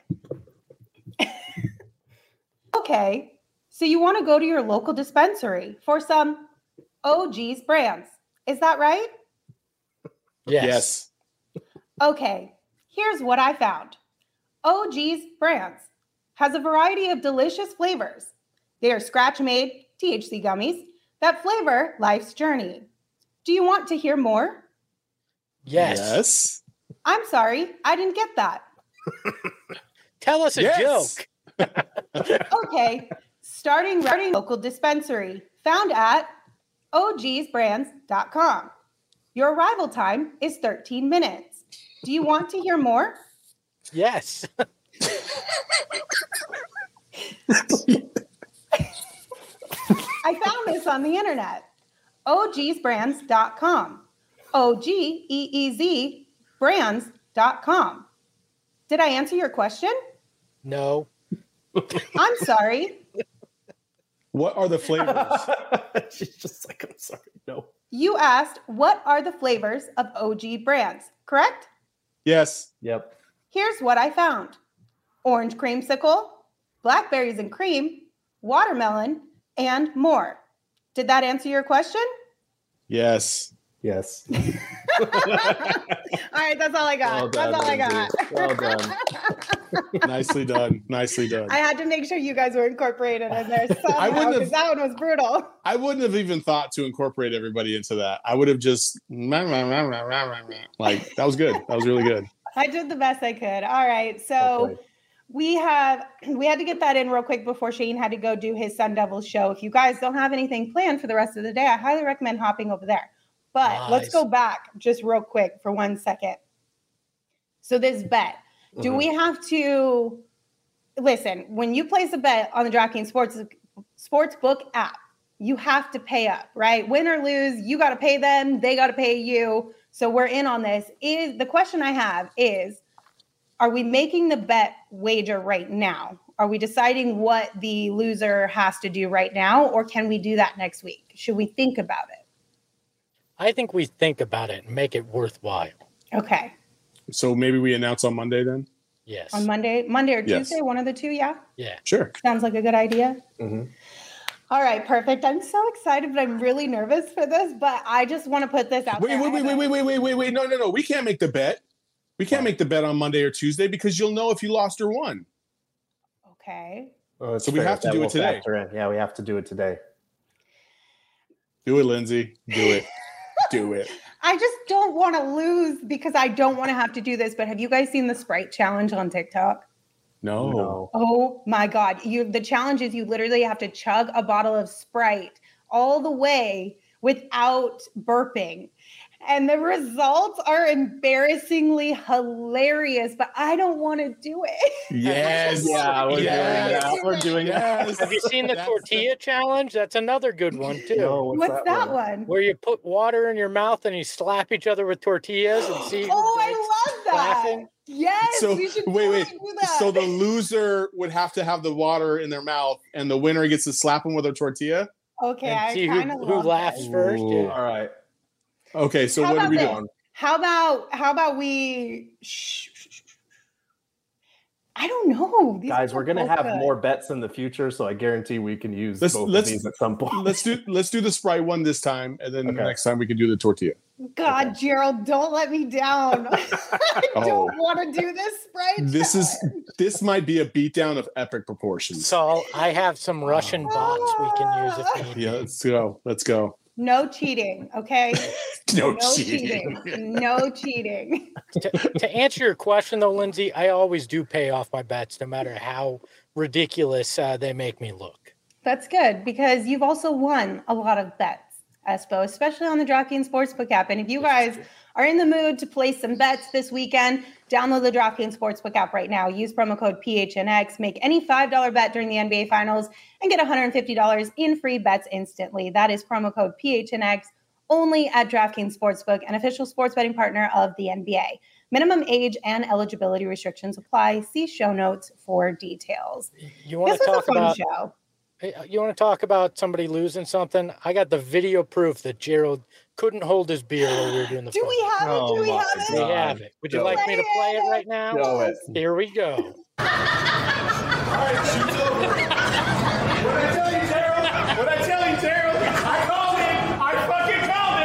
Speaker 4: Okay. So you want to go to your local dispensary for some OG's brands. Is that right?
Speaker 5: Yes.
Speaker 4: Okay. Here's what I found. OG's brands has a variety of delicious flavors. They are scratch-made THC gummies that flavor life's journey. Do you want to hear more?
Speaker 1: Yes.
Speaker 4: I'm sorry, I didn't get that.
Speaker 1: Tell us a joke.
Speaker 4: Okay, starting local dispensary found at ogsbrands.com. Your arrival time is 13 minutes. Do you want to hear more?
Speaker 1: Yes.
Speaker 4: I found this on the internet. ogsbrands.com. OGEEZ brands.com. Did I answer your question?
Speaker 1: No.
Speaker 4: I'm sorry.
Speaker 5: What are the flavors?
Speaker 3: She's just like, I'm sorry. No.
Speaker 4: You asked, what are the flavors of OG brands, correct?
Speaker 5: Yes.
Speaker 3: Yep.
Speaker 4: Here's what I found. Orange creamsicle, blackberries and cream, watermelon, and more. Did that answer your question?
Speaker 5: Yes.
Speaker 3: Yes.
Speaker 4: All right, that's all I got.
Speaker 3: Well done,
Speaker 4: that's all I got.
Speaker 3: Well done.
Speaker 5: Nicely done. Nicely done.
Speaker 4: I had to make sure you guys were incorporated in there somehow because that one was brutal.
Speaker 5: I wouldn't have even thought to incorporate everybody into that. I would have just like, that was good. That was really good.
Speaker 4: I did the best I could. All right. So
Speaker 3: Okay.
Speaker 4: we had to get that in real quick before Shane had to go do his Sun Devils show. If you guys don't have anything planned for the rest of the day, I highly recommend hopping over there. But let's go back just real quick for 1 second. So this bet, do we have to listen, when you place a bet on the DraftKings Sportsbook app, you have to pay up, right? Win or lose, you got to pay them, they got to pay you. So we're in on this. The question I have is, are we making the bet wager right now? Are we deciding what the loser has to do right now, or can we do that next week? Should we think about it?
Speaker 1: I think we think about it and make it worthwhile.
Speaker 4: Okay.
Speaker 5: So maybe we announce on Monday then?
Speaker 1: Yes.
Speaker 4: On Monday or
Speaker 5: Yes.
Speaker 4: Tuesday, one of the two, yeah?
Speaker 1: Yeah.
Speaker 5: Sure.
Speaker 4: Sounds like a good idea.
Speaker 3: Mm-hmm.
Speaker 4: All right, perfect. I'm so excited, but I'm really nervous for this, but I just want to put this out there.
Speaker 5: Wait. No. We can't make the bet. We can't make the bet on Monday or Tuesday because you'll know if you lost or won.
Speaker 4: Okay.
Speaker 3: Oh,
Speaker 5: So we have to do it today.
Speaker 3: Yeah, we have to do it today.
Speaker 5: Do it, Lindsay. Do it. Do it.
Speaker 4: I just don't want to lose because I don't want to have to do this, but have you guys seen the Sprite challenge on TikTok?
Speaker 5: No.
Speaker 4: Oh my God. The challenge is you literally have to chug a bottle of Sprite all the way without burping. And the results are embarrassingly hilarious, but I don't want to do it.
Speaker 5: Yes.
Speaker 3: Yeah, we're doing that.
Speaker 1: Have you seen the tortilla challenge? That's another good one too.
Speaker 3: No,
Speaker 4: What's that one?
Speaker 1: Where you put water in your mouth and you slap each other with tortillas and see who
Speaker 4: Oh,
Speaker 1: breaks
Speaker 4: I love that.
Speaker 1: laughing.
Speaker 4: Yes,
Speaker 5: So
Speaker 4: we should
Speaker 5: wait.
Speaker 4: totally do that.
Speaker 5: So the loser would have to have the water in their mouth, and the winner gets to slap them with a tortilla.
Speaker 4: Okay,
Speaker 1: And
Speaker 4: I
Speaker 1: see
Speaker 4: kind of
Speaker 1: who laughs first.
Speaker 3: Ooh.
Speaker 1: Yeah.
Speaker 3: All right.
Speaker 5: Okay, so
Speaker 4: How
Speaker 5: what are
Speaker 4: about
Speaker 5: we
Speaker 4: this?
Speaker 5: doing?
Speaker 4: How about we? I don't know. These
Speaker 3: Guys,
Speaker 4: are
Speaker 3: we're gonna
Speaker 4: both
Speaker 3: have
Speaker 4: good.
Speaker 3: more bets in the future, so I guarantee we can use
Speaker 5: Let's-
Speaker 3: both
Speaker 5: let's-
Speaker 3: of these at some point.
Speaker 5: Let's do the Sprite one this time, and then
Speaker 3: Okay.
Speaker 5: next time we can do the tortilla.
Speaker 4: God, Gerald, don't let me down. I
Speaker 5: Oh.
Speaker 4: don't want to do this Sprite.
Speaker 5: This might be a beatdown of epic proportions.
Speaker 1: So I have some Russian bots we can use if we need.
Speaker 5: Yeah, let's go. Let's go.
Speaker 4: No cheating, okay?
Speaker 5: No,
Speaker 4: No cheating. No cheating.
Speaker 1: To answer your question though, Lindsay, I always do pay off my bets no matter how ridiculous they make me look.
Speaker 4: That's good because you've also won a lot of bets, Espo, especially on the DraftKings Sportsbook app. And if you guys are in the mood to place some bets this weekend, download the DraftKings Sportsbook app right now. Use promo code PHNX. Make any $5 bet during the NBA Finals and get $150 in free bets instantly. That is promo code PHNX only at DraftKings Sportsbook, an official sports betting partner of the NBA. Minimum age and eligibility restrictions apply. See show notes for details.
Speaker 1: You want
Speaker 4: This
Speaker 1: to
Speaker 4: was a
Speaker 1: talk
Speaker 4: fun
Speaker 1: about
Speaker 4: show.
Speaker 1: Hey, you want to talk about somebody losing something? I got the video proof that Gerald couldn't hold his beer while we were doing the
Speaker 4: Do we
Speaker 1: photo.
Speaker 4: have it? Do we have
Speaker 1: We
Speaker 4: it?
Speaker 1: have it. Would you
Speaker 3: Go
Speaker 1: like me to play it right now?
Speaker 3: Go it.
Speaker 1: Here we go.
Speaker 7: All right, shoot's over. What I tell you, Gerald? What I tell you, Gerald? I called it. I fucking called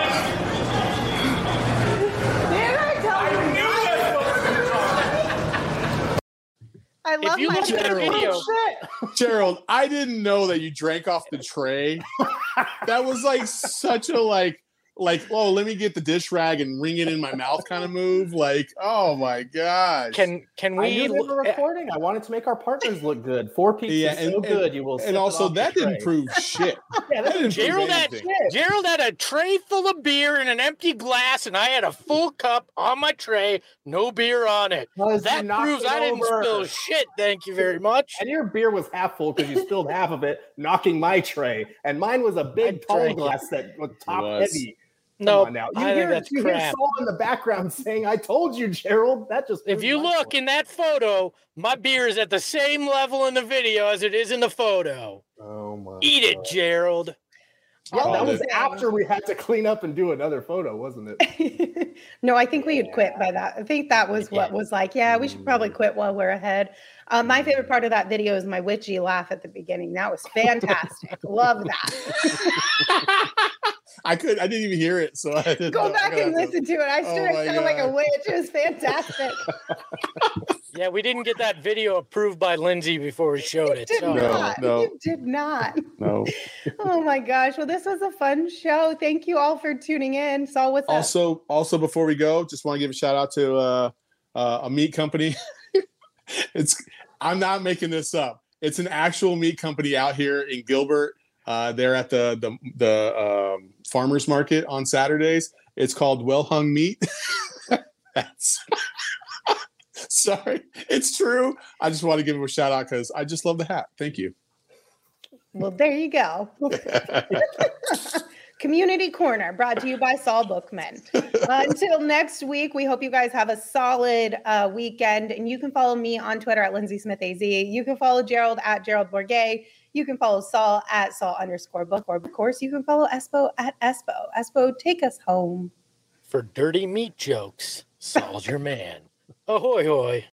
Speaker 7: it.
Speaker 4: Did I tell
Speaker 7: I
Speaker 4: you?
Speaker 7: knew that's what we were talking.
Speaker 4: I love
Speaker 1: you
Speaker 4: my
Speaker 1: look at the video,
Speaker 5: Gerald, I didn't know that you drank off the tray. That was like such a like, oh, let me get the dish rag and wring it in my mouth kind of move. Like, oh my gosh.
Speaker 1: Can
Speaker 3: I
Speaker 1: we?
Speaker 3: knew they were recording. I wanted to make our partners look good. 4 pizzas
Speaker 5: Yeah,
Speaker 3: so good. You will. sip
Speaker 5: and
Speaker 3: it
Speaker 5: also
Speaker 3: off
Speaker 5: that
Speaker 3: the
Speaker 5: didn't
Speaker 3: tray.
Speaker 5: prove shit.
Speaker 3: Yeah,
Speaker 5: That didn't
Speaker 1: Gerald
Speaker 5: prove
Speaker 1: had,
Speaker 5: anything.
Speaker 1: Gerald had a tray full of beer and an empty glass, and I had a full cup on my tray, no beer on it.
Speaker 3: Because you
Speaker 1: That
Speaker 3: knocked
Speaker 1: proves
Speaker 3: it
Speaker 1: I didn't
Speaker 3: over.
Speaker 1: spill shit. Thank you very much.
Speaker 3: And your beer was half full because you spilled half of it, knocking my tray. And mine was a big tall
Speaker 1: drank it.
Speaker 3: glass that was top
Speaker 5: was.
Speaker 3: heavy. Come
Speaker 1: No,
Speaker 3: on now. You
Speaker 1: I
Speaker 3: hear,
Speaker 1: think that's
Speaker 3: you hear
Speaker 1: crap.
Speaker 3: Saul in the background saying, "I told you, Gerald." That just
Speaker 1: If you look in that photo, my beer is at the same level in the video as it is in the photo.
Speaker 3: oh my
Speaker 1: Eat it,
Speaker 3: God.
Speaker 1: Gerald.
Speaker 3: Yeah, that
Speaker 5: Called
Speaker 3: was
Speaker 5: it.
Speaker 3: after we had to clean up and do another photo, wasn't it?
Speaker 4: No, I think we had quit by that. I think that was what was like, yeah, we should probably quit while we're ahead. My favorite part of that video is my witchy laugh at the beginning. That was fantastic. Love that.
Speaker 5: I didn't even hear it. So I didn't
Speaker 4: Go
Speaker 5: know.
Speaker 4: back and listen to it. I
Speaker 5: Oh
Speaker 4: sure
Speaker 5: my
Speaker 4: sound like a
Speaker 5: God.
Speaker 4: witch. It was fantastic.
Speaker 1: Yeah, we didn't get that video approved by Lindsay before we showed it.
Speaker 4: Did
Speaker 1: So.
Speaker 4: not.
Speaker 5: no.
Speaker 4: You did not.
Speaker 5: No.
Speaker 4: Oh my gosh. Well, this was a fun show. Thank you all for tuning in. Saul, what's up?
Speaker 5: Also, before we go, just want to give a shout out to a meat company. I'm not making this up. It's an actual meat company out here in Gilbert. They're at the farmers market on Saturdays. It's called Well Hung Meat. That's sorry, it's true. I just want to give them a shout out because I just love the hat. Thank you.
Speaker 4: Well, there you go. Community Corner brought to you by Saul Bookman. Until next week, we hope you guys have a solid weekend. And you can follow me on Twitter at Lindsay Smith AZ. You can follow Gerald at Gerald Bourget. You can follow Saul at Saul_book. Or, of course, you can follow Espo at Espo. Espo, take us home.
Speaker 1: For dirty meat jokes, Saul's your man. Ahoy, hoy.